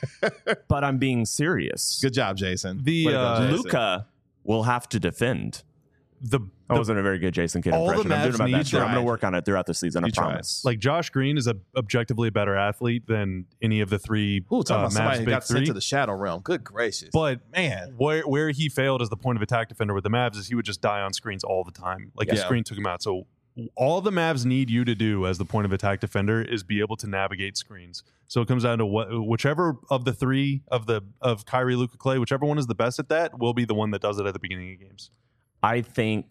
but I'm being serious. Good job, Jason. The, Way to go, uh, Jason. Luka will have to defend. The, That the wasn't a very good Jason Kidd all the impression. I'm doing Mavs my need best. here. I'm to- going to work on it throughout the season. I You tried. promise. like Josh Green is a objectively a better athlete than any of the three Ooh, talking uh, about somebody Mavs who big got sent three. to the shadow realm. Good gracious. But man, where where he failed as the point of attack defender with the Mavs is he would just die on screens all the time. Like his Yeah. screen took him out. So all the Mavs need you to do as the point of attack defender is be able to navigate screens. So it comes down to what whichever of the three of the of Kyrie, Luka, Clay, whichever one is the best at that will be the one that does it at the beginning of games. I think,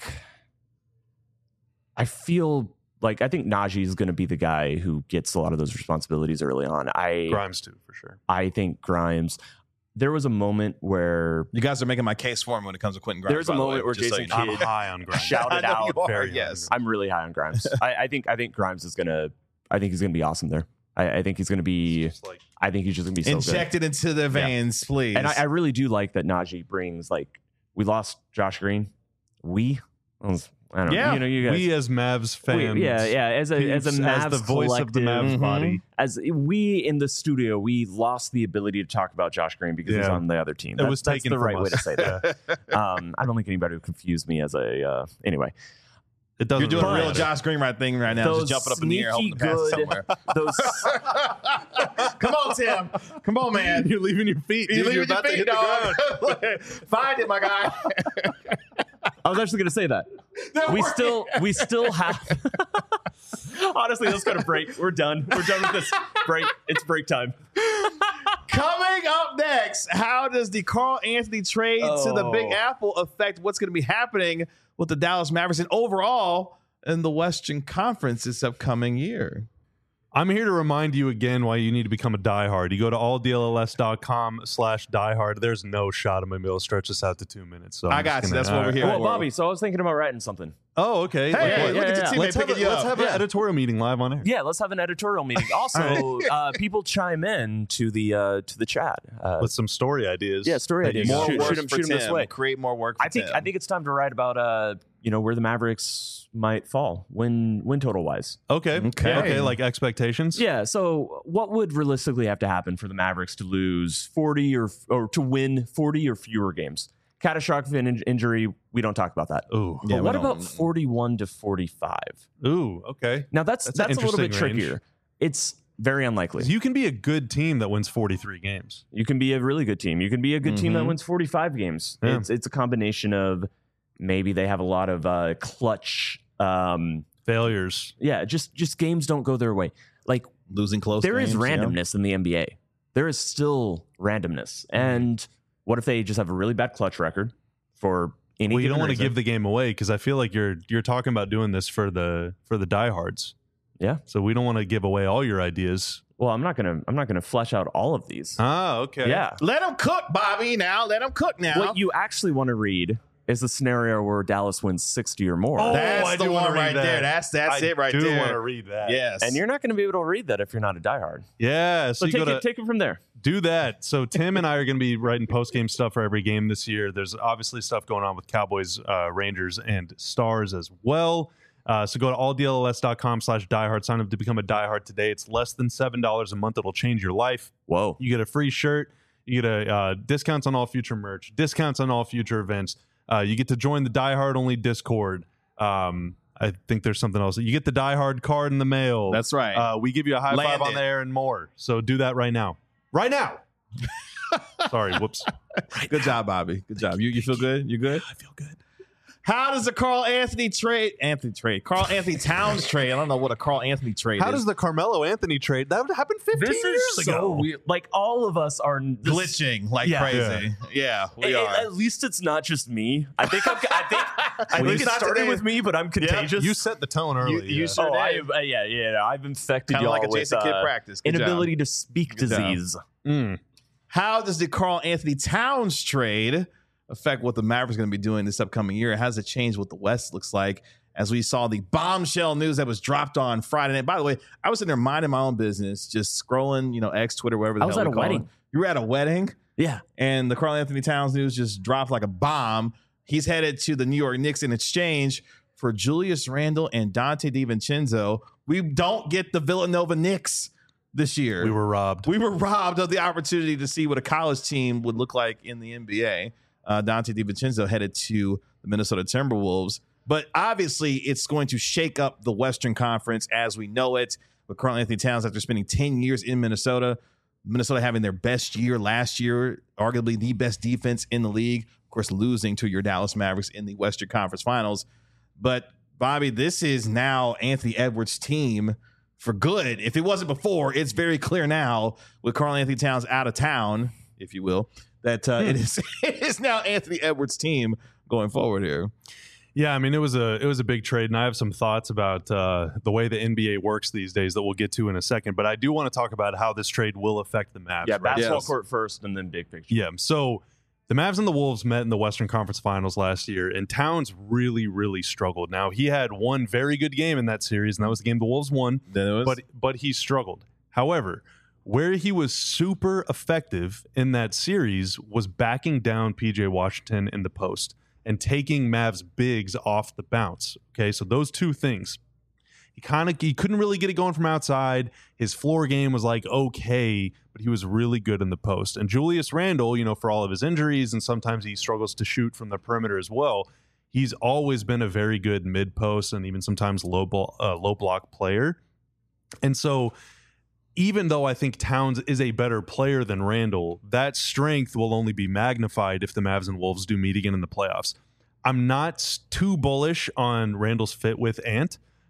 I feel like I think Najee is going to be the guy who gets a lot of those responsibilities early on. I Grimes too, for sure. I think Grimes. There was a moment where you guys are making my case for him when it comes to Quentin Grimes. There's a by the moment way, where just so Jason you know. I'm Kidd high on Grimes. shouted I know out. you are, very high on yes. I'm really high on Grimes. I, I think I think Grimes is gonna. I think he's gonna be awesome there. I, I think he's gonna be. Just like I think he's just gonna be so good. Injected into the veins, please. And I, I really do like that Najee brings, like, we lost Josh Green. We, I, was, I don't Yeah. know. You know, you guys. we as Mavs fans, we- yeah, yeah. As a as a peeps, Mavs as the voice of the collective, Mavs Mhm. body. as we in the studio, we lost the ability to talk about Josh Green because he's Yeah. on the other team. It That's, was that's taken the from right way us. to say that. um, I don't think anybody would confuse me as a. Uh, anyway, It doesn't You're doing a really real matter. Josh Green right thing right now, Those just jumping up in the air, hoping to sneaky pass it good- somewhere. those Come on, Tim. Come on, man. You're leaving your feet. You're dude. leaving your about to feet, hit the ground. dog. Find it, my guy. I was actually going to say that. Don't We worry. still we still have Honestly, let's go to break. We're done. We're done with this break. It's break time. Coming up next, how does the Karl Anthony trade to the Big Oh. Apple affect what's going to be happening with the Dallas Mavericks and overall in the Western Conference this upcoming year? I'm here to remind you again why you need to become a diehard. You go to all D L L S dot com slash diehard. There's no shot I'm going to be able to stretch this out to two minutes. So I'm I got just you. gonna- That's what all we're right. here Well, for. Bobby, so I was thinking about writing something. Oh, okay. Hey, Like what? look yeah, at your yeah. teammate Let's have, picking a, you let's up. have an Yeah. editorial meeting live on air. Yeah, let's have an editorial meeting. Also, uh, people chime in to the uh, to the chat. Uh, With some story ideas. Yeah, story that you ideas. got. More Shoot- work shoot 'em- for shoot 'em this Tim. way. Create more work for I think Tim. I think it's time to write about uh, you know, where the Mavericks might fall win win total wise. Okay. Okay. Okay. Like expectations. Yeah. So, what would realistically have to happen for the Mavericks to lose forty or or to win forty or fewer games? Catastrophic in- injury, we don't talk about that. Ooh. Yeah, But we what don't- about forty-one to forty-five? Ooh. Okay. Now that's That's that's, an a little bit interesting range. trickier. It's very unlikely. You can be a good team that wins forty-three games. You can be a really good team. You can be a good team that Mhm. wins forty-five games. Yeah. It's it's a combination of maybe they have a lot of uh, clutch. Um, Failures. yeah, just just games don't go their way. Like losing close. there is games, you know? randomness in the N B A. There is still randomness. And what if they just have a really bad clutch record for any? Well, you don't given want to reason? give the game away because I feel like you're you're talking about doing this for the for the diehards. Yeah. So we don't want to give away all your ideas. Well, I'm not gonna I'm not gonna flesh out all of these. Ah, okay. Yeah. Let him cook, Bobby. Now let him cook. Now What you actually want to read is the scenario where Dallas wins sixty or more. Oh, that's I the do wanna one read right that. there. That's that's I it right do there. want to read that. Yes, And you're not going to be able to read that if you're not a diehard. Yeah. So, So you take gotta it, take it from there. do that. So Tim and I are going to be writing post game stuff for every game this year. There's obviously stuff going on with Cowboys, uh, Rangers, and Stars as well. Uh, so go to all D L L S dot com slash diehard. Sign up to become a diehard today. It's less than seven dollars a month. It'll change your life. Whoa. You get a free shirt. You get a uh, discounts on all future merch, discounts on all future events. Uh, you get to join the Die Hard only Discord. Um, I think there's something else. You get the Die Hard card in the mail. That's right. Uh, we give you a high Land five on it. there and more. So do that right now. Right now. Sorry. Whoops. Good job, Bobby. Good job. You you feel good? You good? I feel good. How does the Karl Anthony trade? Anthony trade. Karl Anthony Towns trade. I don't know what a Karl Anthony trade How is. does the Carmelo Anthony trade? That happened fifteen This years is so ago. weird. Like all of us are this, glitching like Yeah. crazy? Yeah, we At, are. at least it's not just me. I think I'm, I think I Well, think it's it not started today. with me, but I'm contagious. You set the tone early. you yeah. sure- oh, I, did. uh, yeah, yeah. I've infected Kind of y'all like a with Jason Kidd uh, practice. Good job. inability to speak Good job. disease. Mm. How does the Karl Anthony Towns trade affect what the Mavericks are going to be doing this upcoming year? How does it change what the West looks like? As we saw the bombshell news that was dropped on Friday night. By the way, I was in there minding my own business, just scrolling, you know, X, Twitter, whatever the I was hell at we a call wedding. it. You were at a wedding, Yeah. and the Karl Anthony Towns news just dropped like a bomb. He's headed to the New York Knicks in exchange for Julius Randle and Dante DiVincenzo. We don't get the Villanova Knicks this year. We were robbed. We were robbed of the opportunity to see what a college team would look like in the N B A. Uh, Dante DiVincenzo headed to the Minnesota Timberwolves. But obviously, it's going to shake up the Western Conference as we know it. With Karl Anthony Towns, after spending ten years in Minnesota, Minnesota having their best year last year, arguably the best defense in the league. Of course, losing to your Dallas Mavericks in the Western Conference Finals. But, Bobby, this is now Anthony Edwards' team for good. If it wasn't before, it's very clear now with Karl Anthony Towns out of town, if you will, that uh, it is it is now Anthony Edwards' team going forward here. Yeah, I mean it was a it was a big trade, and I have some thoughts about uh, the way the N B A works these days that we'll get to in a second. But I do want to talk about how this trade will affect the Mavs. Yeah, right? basketball Yes. court first and then big picture. Yeah. So the Mavs and the Wolves met in the Western Conference Finals last year, and Towns really, really struggled. Now he had one very good game in that series, and that was the game the Wolves won. Then it was, But but he struggled. However, where he was super effective in that series was backing down P J Washington in the post and taking Mavs bigs off the bounce. Okay, so those two things. He kind of he couldn't really get it going from outside. His floor game was like okay, but he was really good in the post. And Julius Randle, you know, for all of his injuries and sometimes he struggles to shoot from the perimeter as well, he's always been a very good mid post and even sometimes low ball, uh, low block player. And so even though I think Towns is a better player than Randle, that strength will only be magnified if the Mavs and Wolves do meet again in the playoffs. I'm not too bullish on Randle's fit with Ant.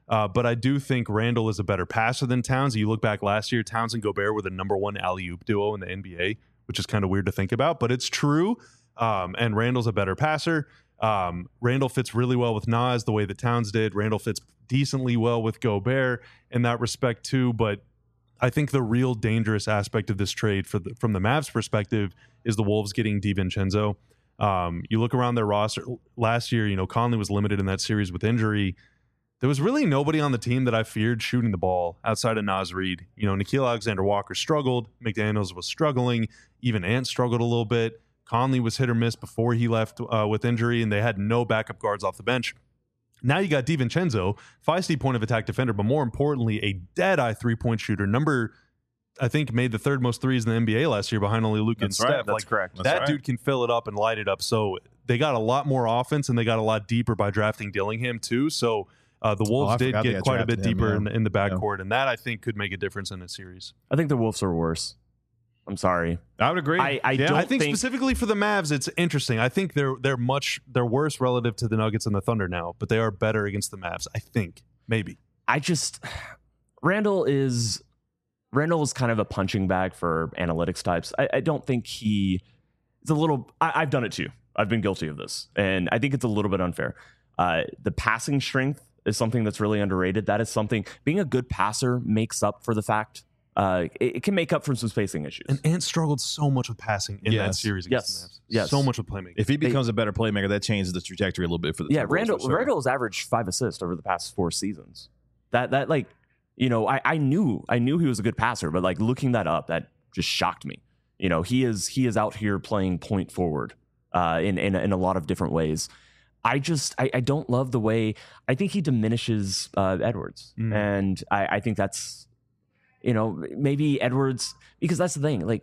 Uh, but I do think Randall is a better passer than Towns. You look back last year, Towns and Gobert were the number one alley-oop duo in the N B A, which is kind of weird to think about, but it's true. Um, and Randall's a better passer. Um, Randall fits really well with Nas the way that Towns did. Randall fits decently well with Gobert in that respect too. But I think the real dangerous aspect of this trade for the, from the Mavs perspective is the Wolves getting DiVincenzo. Um, you look around their roster last year, you know, Conley was limited in that series with injury. There was really nobody on the team that I feared shooting the ball outside of Naz Reid. You know, Nickeil Alexander-Walker struggled. McDaniels was struggling. Even Ant struggled a little bit. Conley was hit or miss before he left uh, with injury, and they had no backup guards off the bench. Now you got DiVincenzo, feisty point of attack defender, but more importantly, a dead-eye three-point shooter. Number, I think, made the third most threes in the N B A last year behind only Luka and That's right. Steph. That's like, correct. That's that right. dude can fill it up and light it up. So they got a lot more offense, and they got a lot deeper by drafting Dillingham, too. So uh, the Wolves Oh, I did forgot they get had quite a bit drafted him, deeper yeah. in, the, in the backcourt, and that, I think, could make a difference in a series. I think the Wolves are worse. I'm sorry. I would agree. I, I Yeah. don't I think, think specifically for the Mavs, it's interesting. I think they're they're much they're worse relative to the Nuggets and the Thunder now, but they are better against the Mavs. I think maybe. I just Randall is Randall is kind of a punching bag for analytics types. I, I don't think he is a little. I, I've done it too. I've been guilty of this, and I think it's a little bit unfair. Uh, the passing strength is something that's really underrated. That is something. Being a good passer makes up for the fact. Uh, it, it can make up for some spacing issues. And Ant struggled so much with passing in that Yes. series against Yes. the Mavs. Yes. So much with playmaking. If he becomes a better playmaker, that changes the trajectory a little bit for the yeah, for the Wolves, Randall for sure. Randall has averaged five assists over the past four seasons. That that like you know I, I knew I knew he was a good passer, but like looking that up, that just shocked me. You know he is he is out here playing point forward uh, in in in a lot of different ways. I just I, I don't love the way I think he diminishes uh, Edwards, Mm. and I, I think that's you know maybe Edwards because that's the thing like.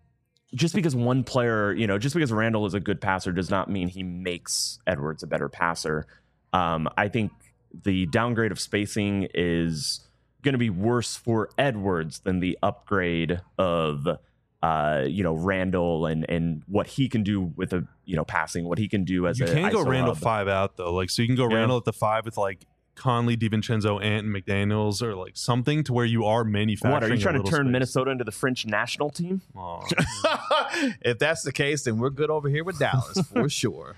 Just because one player, you know, just because Randall is a good passer does not mean he makes Edwards a better passer. Um, I think the downgrade of spacing is going to be worse for Edwards than the upgrade of, uh, you know, Randall and and what he can do with a, you know, passing, what he can do as you a can go I S O Randall hub. five out though. Like so you can go Yeah. Randall at the five with like Conley, DiVincenzo, Ant, and McDaniels, or like something to where you are manufacturing. What are you a trying to little turn space. Minnesota into the French national team? Aw. If that's the case, then we're good over here with Dallas for sure.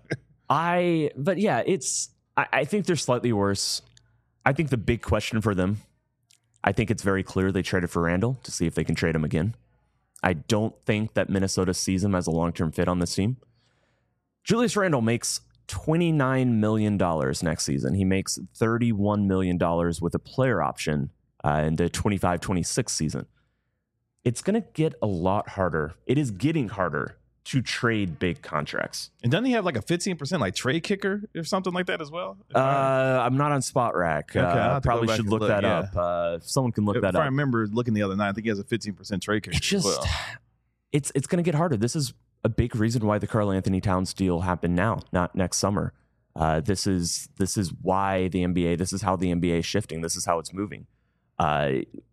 I, but yeah, it's, I, I think they're slightly worse. I think the big question for them, I think it's very clear they traded for Randall to see if they can trade him again. I don't think that Minnesota sees him as a long-term fit on this team. Julius Randle makes twenty-nine million dollars next season. He makes thirty-one million dollars with a player option uh, in the twenty-five twenty-six season. It's going to get a lot harder. It is getting harder to trade big contracts. And doesn't he have like a fifteen percent like trade kicker or something like that as well? If Uh, I- I'm not on Spot Rack. Okay, I'll uh, have to go probably back should and look, look, that yeah. up. Uh, if someone can look if that I up. remember looking the other night, I think he has a fifteen percent trade kicker. It's just, as well. it's it's going to get harder. This is a big reason why the Karl Anthony Towns deal happened now, not next summer. Uh, this is this is why the N B A. This is how the N B A is shifting. This is how it's moving. Uh,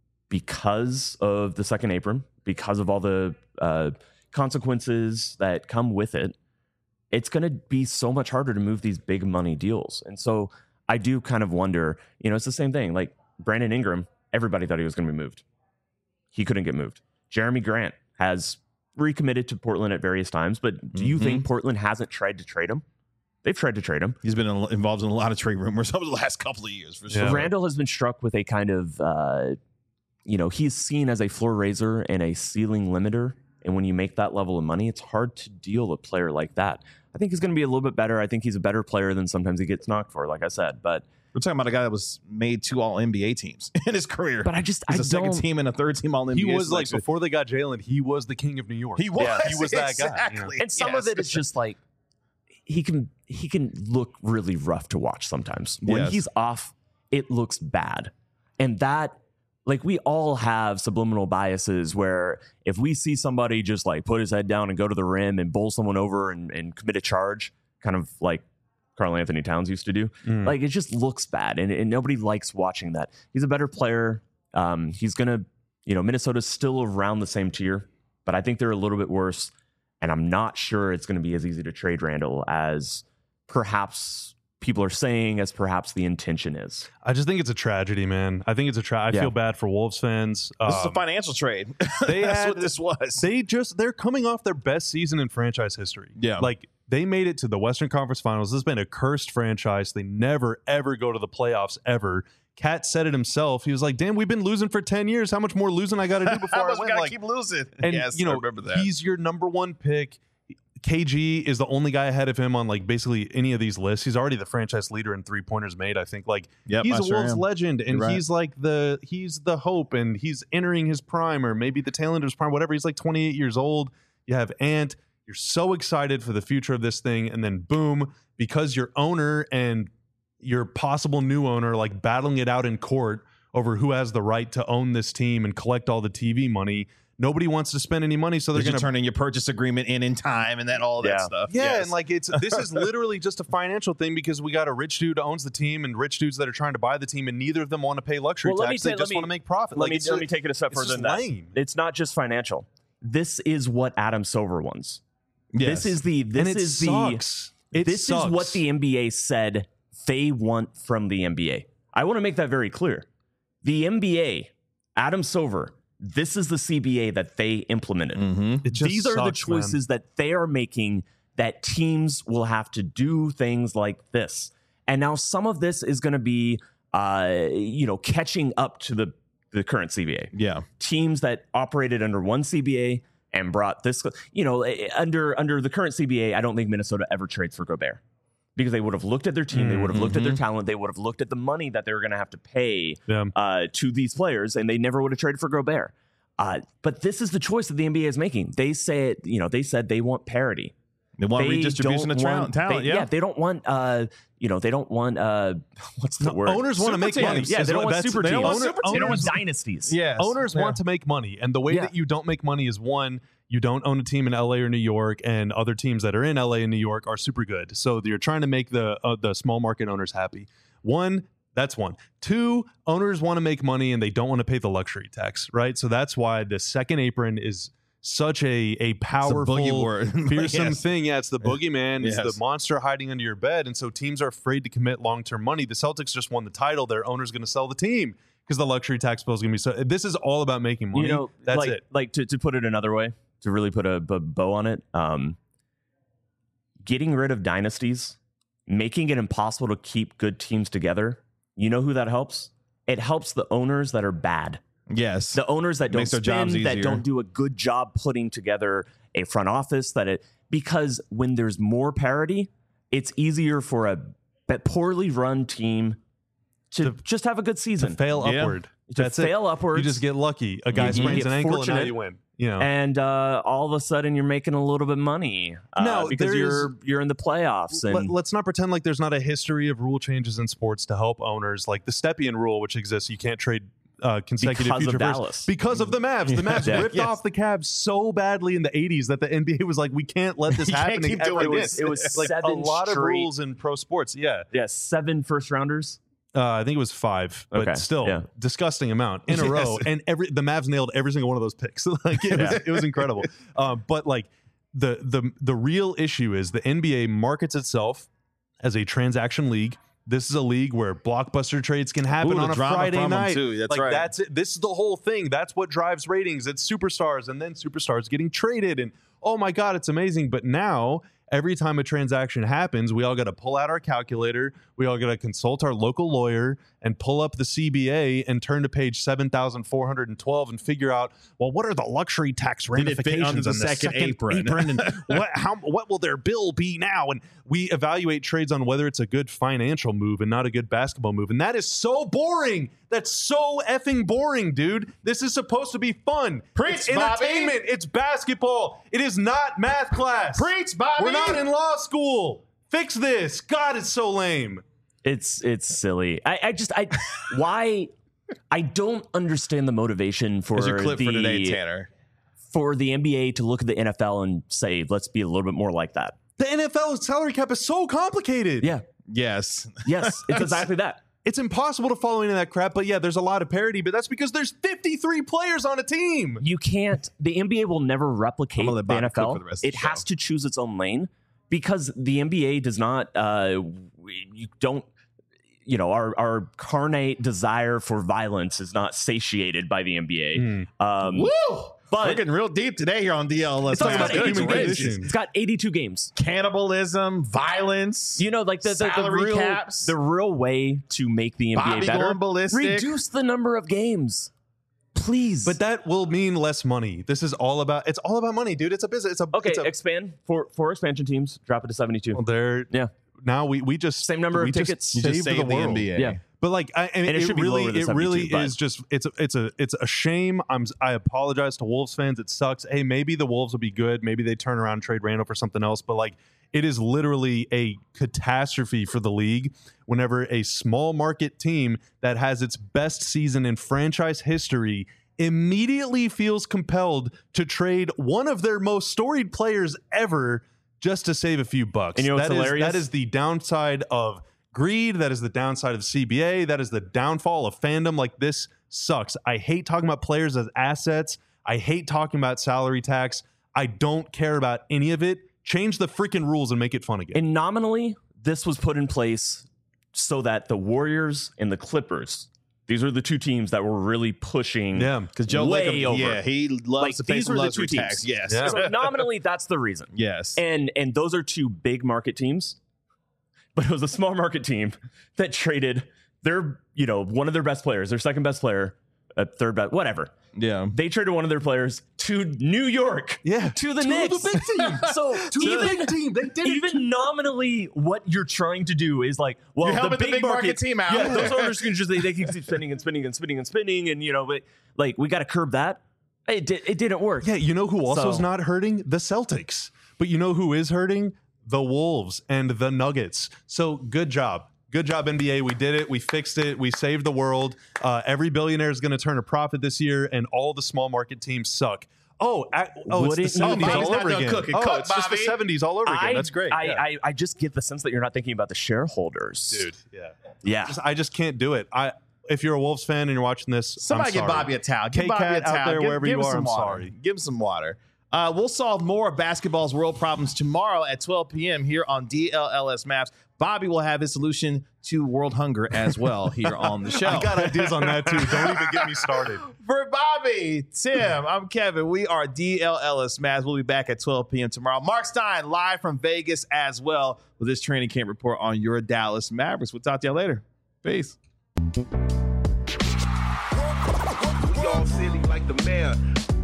because of the second apron, because of all the uh, consequences that come with it, it's going to be so much harder to move these big money deals. And so I do kind of wonder. You know, it's the same thing. Like Brandon Ingram, everybody thought he was going to be moved. He couldn't get moved. Jeremy Grant has recommitted to Portland at various times, but do you Mhm. think Portland hasn't tried to trade him? They've tried to trade him. He's been in- involved in a lot of trade rumors over the last couple of years for sure. Yeah. Randall has been struck with a kind of, uh, you know, he's seen as a floor raiser and a ceiling limiter. And when you make that level of money, it's hard to deal a player like that. I think he's going to be a little bit better. I think he's a better player than sometimes he gets knocked for, like I said. But We're talking about a guy that was made two All N B A teams in his career. but I just He's I a second don't. team and a third team All N B A. He was like selection. before they got Jalen, he was the king of New York. He was. Yeah, he was that guy. exactly. And some Yes. of it is just like he can he can look really rough to watch sometimes. When Yes. he's off, it looks bad. And that like we all have subliminal biases where if we see somebody just like put his head down and go to the rim and bowl someone over and, and commit a charge, kind of like Karl Anthony Towns used to do, Mm. like it just looks bad. And, and nobody likes watching that. He's a better player. Um, he's going to, you know, Minnesota's still around the same tier, but I think they're a little bit worse. And I'm not sure it's going to be as easy to trade Randall as perhaps people are saying as perhaps the intention is. I just think it's a tragedy, man. I think it's a tragedy. I Yeah. feel bad for Wolves fans. This is a Um, financial trade. they That's had- what this was. They just they're coming off their best season in franchise history. Yeah. Like they made it to the Western Conference Finals. This has been a cursed franchise. They never ever go to the playoffs ever. Cat said it himself. He was like, "Damn, we've been losing for ten years. How much more losing I got to do before How I much we win?" gotta Like, keep losing? and yes, you know, I remember that. he's your number one pick. K G is the only guy ahead of him on like basically any of these lists. He's already the franchise leader in three pointers made. I think like Yep, he's I a sure Wolves am. legend, and You're right. he's like the he's the hope, and he's entering his prime or maybe the tail end of his prime, whatever. He's like twenty-eight years old. You have Ant. You're so excited for the future of this thing, and then boom, because your owner and your possible new owner like battling it out in court over who has the right to own this team and collect all the T V money. Nobody wants to spend any money, so they're Did you going to turn in your purchase agreement in in time and then all that Yeah. stuff. yeah, Yes. and like it's this is literally just a financial thing because we got a rich dude who owns the team and rich dudes that are trying to buy the team, and neither of them want to pay luxury Well, let me tax. ta- They let just me- want to make profit. Let Like me it's let just- me take it a step it's further just than that. lame. It's not just financial. This is what Adam Silver wants. Yes. This is the this and it is sucks. the It this sucks. is what the N B A said they want from the N B A. I want to make that very clear. The N B A, Adam Silver, this is the C B A that they implemented. Mm-hmm. It just These are the sucks, man. choices that they are making that teams will have to do things like this. And now some of this is going to be, uh, you know, catching up to the, the current C B A. Yeah. Teams that operated under one C B A and brought this, you know, eh, under under the current C B A, I don't think Minnesota ever trades for Gobert because they would have looked at their team, they would have looked at their talent, they would have looked at the money that they were going to have to pay Yeah. uh, to these players, and they never would have traded for Gobert. Uh, but this is the choice that the N B A is making. They say, you know, they said they want parity. They want They redistribution don't of talent. want- talent they- yeah. they don't want, uh, you know, they don't want, uh, what's the word? Owners want to Super make teams. money. Yeah, is they don't what- want that's- super they don't teams. want super They don't want teams. dynasties. Yes. Owners Yeah. want to make money, and the way Yeah. that you don't make money is one, you don't own a team in L A or New York, and other teams that are in L A and New York are super good. So you're trying to make the uh, the small market owners happy. One, that's one. Two, owners want to make money and they don't want to pay the luxury tax, right? So that's why the second apron is such a a powerful, boogie word. fearsome Yes. thing. Yeah, it's the boogeyman. It's Yes. the monster hiding under your bed, and so teams are afraid to commit long term money. The Celtics just won the title. Their owner's going to sell the team because the luxury tax bill is going to be so. This is all about making money. You know, that's like, it. Like to, to put it another way, to really put a, b- bow on it, um, getting rid of dynasties, making it impossible to keep good teams together. You know who that helps? It helps the owners that are bad. Yes. The owners that don't Makes their spend, jobs that easier. don't do a good job putting together a front office. That it because when there's more parity, it's easier for a b- poorly run team to, To- just have a good To season. fail Yeah. upward. To That's fail it. upwards. You just get lucky. A guy You- you sprains get an ankle and now fortunate. you win. You know. and uh, all of a sudden you're making a little bit of money uh, No, because there you're is- you're in the playoffs and Let, let's not pretend like there's not a history of rule changes in sports to help owners, like the Stepien rule, which exists. You can't trade uh, consecutive Because of future firsts Dallas. because of the Mavs. The Mavs Yeah. ripped Yes. off the Cavs so badly in the eighties that the N B A was like, we can't let this You can't happen. keep ever doing it again. was, it was like seven a lot straight, of rules in pro sports. Yeah, yeah seven first rounders. uh, I think it was five, but Okay, still, yeah. disgusting amount in a Yes. row. And every the Mavs nailed every single one of those picks. like it was, Yeah. it was incredible. Um, but like the the the real issue is the N B A markets itself as a transaction league. This is a league where blockbuster trades can happen Ooh, the on a drama Friday from 'em, night. too. That's like right. that's it. This is the whole thing. That's what drives ratings. It's superstars and then superstars getting traded. And oh my God, it's amazing. But now every time a transaction happens, we all got to pull out our calculator. We all got to consult our local lawyer and pull up the C B A and turn to page seven thousand four hundred twelve and figure out, well, what are the luxury tax Did it fit ramifications under the on second apron? apron and what, how, what will their bill be now? And we evaluate trades on whether it's a good financial move and not a good basketball move. And that is so boring. That's so effing boring, dude. This is supposed to be fun. Preach, it's entertainment. Bobby. It's basketball. It is not math class. Preach, Bobby. We're not in law school. Fix this. God, it's so lame. It's it's silly. I, I just I why I don't understand the motivation for Here's your clip the for today, Tanner. for the N B A to look at the N F L and say let's be a little bit more like that. The N F L's salary cap is so complicated. Yeah. Yes. Yes. It's exactly that. It's impossible to follow any of that crap, but yeah, there's a lot of parity, but that's because there's fifty-three players on a team. You can't. The N B A will never replicate I'm gonna the let Bobby N F cook L. for the rest of It the has show. to choose its own lane. because the N B A does not, uh, you don't, you know, our, our carnate desire for violence is not satiated by the N B A. Mm. Um, Woo! But We're getting real deep today here on D L S. it's, also got It's eighty-two human games. condition. It's got eighty-two games. Cannibalism, violence. You know, like the, the, the Salary real caps. the real way to make the N B A Bobby better. going ballistic. Reduce the number of games, please. But that will mean less money. This is all about. It's all about money, dude. It's a business. It's a okay, It's a, expand for four expansion teams. Drop it to seventy-two. well, they're Yeah. now we we just Same number we of just tickets. You saved just the saved the world. N B A. Yeah. But like, I, and And it it, should be really, lower than it really seventy-two, but- is just it's a, it's a it's a shame. I'm I apologize to Wolves fans. It sucks. Hey, maybe the Wolves will be good. Maybe they turn around and trade Randall for something else. But like, it is literally a catastrophe for the league whenever a small market team that has its best season in franchise history immediately feels compelled to trade one of their most storied players ever just to save a few bucks. And you know what's That is- hilarious? that is the downside of greed. That is the downside of the C B A. That is the downfall of fandom. Like, this sucks. I hate talking about players as assets. I hate talking about salary tax. I don't care about any of it. Change the freaking rules and make it fun again. And nominally, this was put in place so that the Warriors and the Clippers, these are the two teams that were really pushing. Yeah, Because Joe way Lacob, over. yeah, he loves Like, to pay these some were the luxury two tax. teams. Yes. Yeah. So nominally, that's the reason. Yes. And and those are two big market teams, but it was a small market team that traded their, you know, one of their best players, their second best player, a third best, whatever. yeah. They traded one of their players to New York. Yeah. To the To Knicks. the big team. So To the even, big team. They did it. even nominally, what you're trying to do is like, well, You're the helping big, the big market team out. Yeah, those owners can just they, they can keep spinning and spinning and spinning and spinning, and you know, but like we got to curb that. It did, it didn't work. Yeah, you know who also is So- not hurting? The Celtics. But you know who is hurting? The Wolves and the Nuggets. So good job. Good job, N B A. We did it. We fixed it. We saved the world. Uh, every billionaire is going to turn a profit this year, and all the small market teams suck. Oh, I, oh, Wouldn't it's the you seventies know? all Bobby's not over done again. cooking. Oh, Cook, it's just the Bobby. seventies all over again. I, That's great. I, yeah. I, I just get the sense that you're not thinking about the shareholders. Dude, yeah. Yeah. Just, I just can't do it. I if you're a Wolves fan and you're watching this, Somebody I'm give sorry. Bobby a towel. Give K-Cat Bobby a towel. out there give, wherever give you him are, some I'm water. sorry. Give him some water. Uh, we'll solve more of basketball's world problems tomorrow at twelve p.m. here on D L L S Maps. Bobby will have his solution to world hunger as well here on the show. I got ideas on that too. Don't even get me started. For Bobby, Tim, I'm Kevin. We are D L L S Maps. We'll be back at twelve p.m. tomorrow. Mark Stein live from Vegas as well with this training camp report on your Dallas Mavericks. We'll talk to you later. Peace. We all silly like the mayor.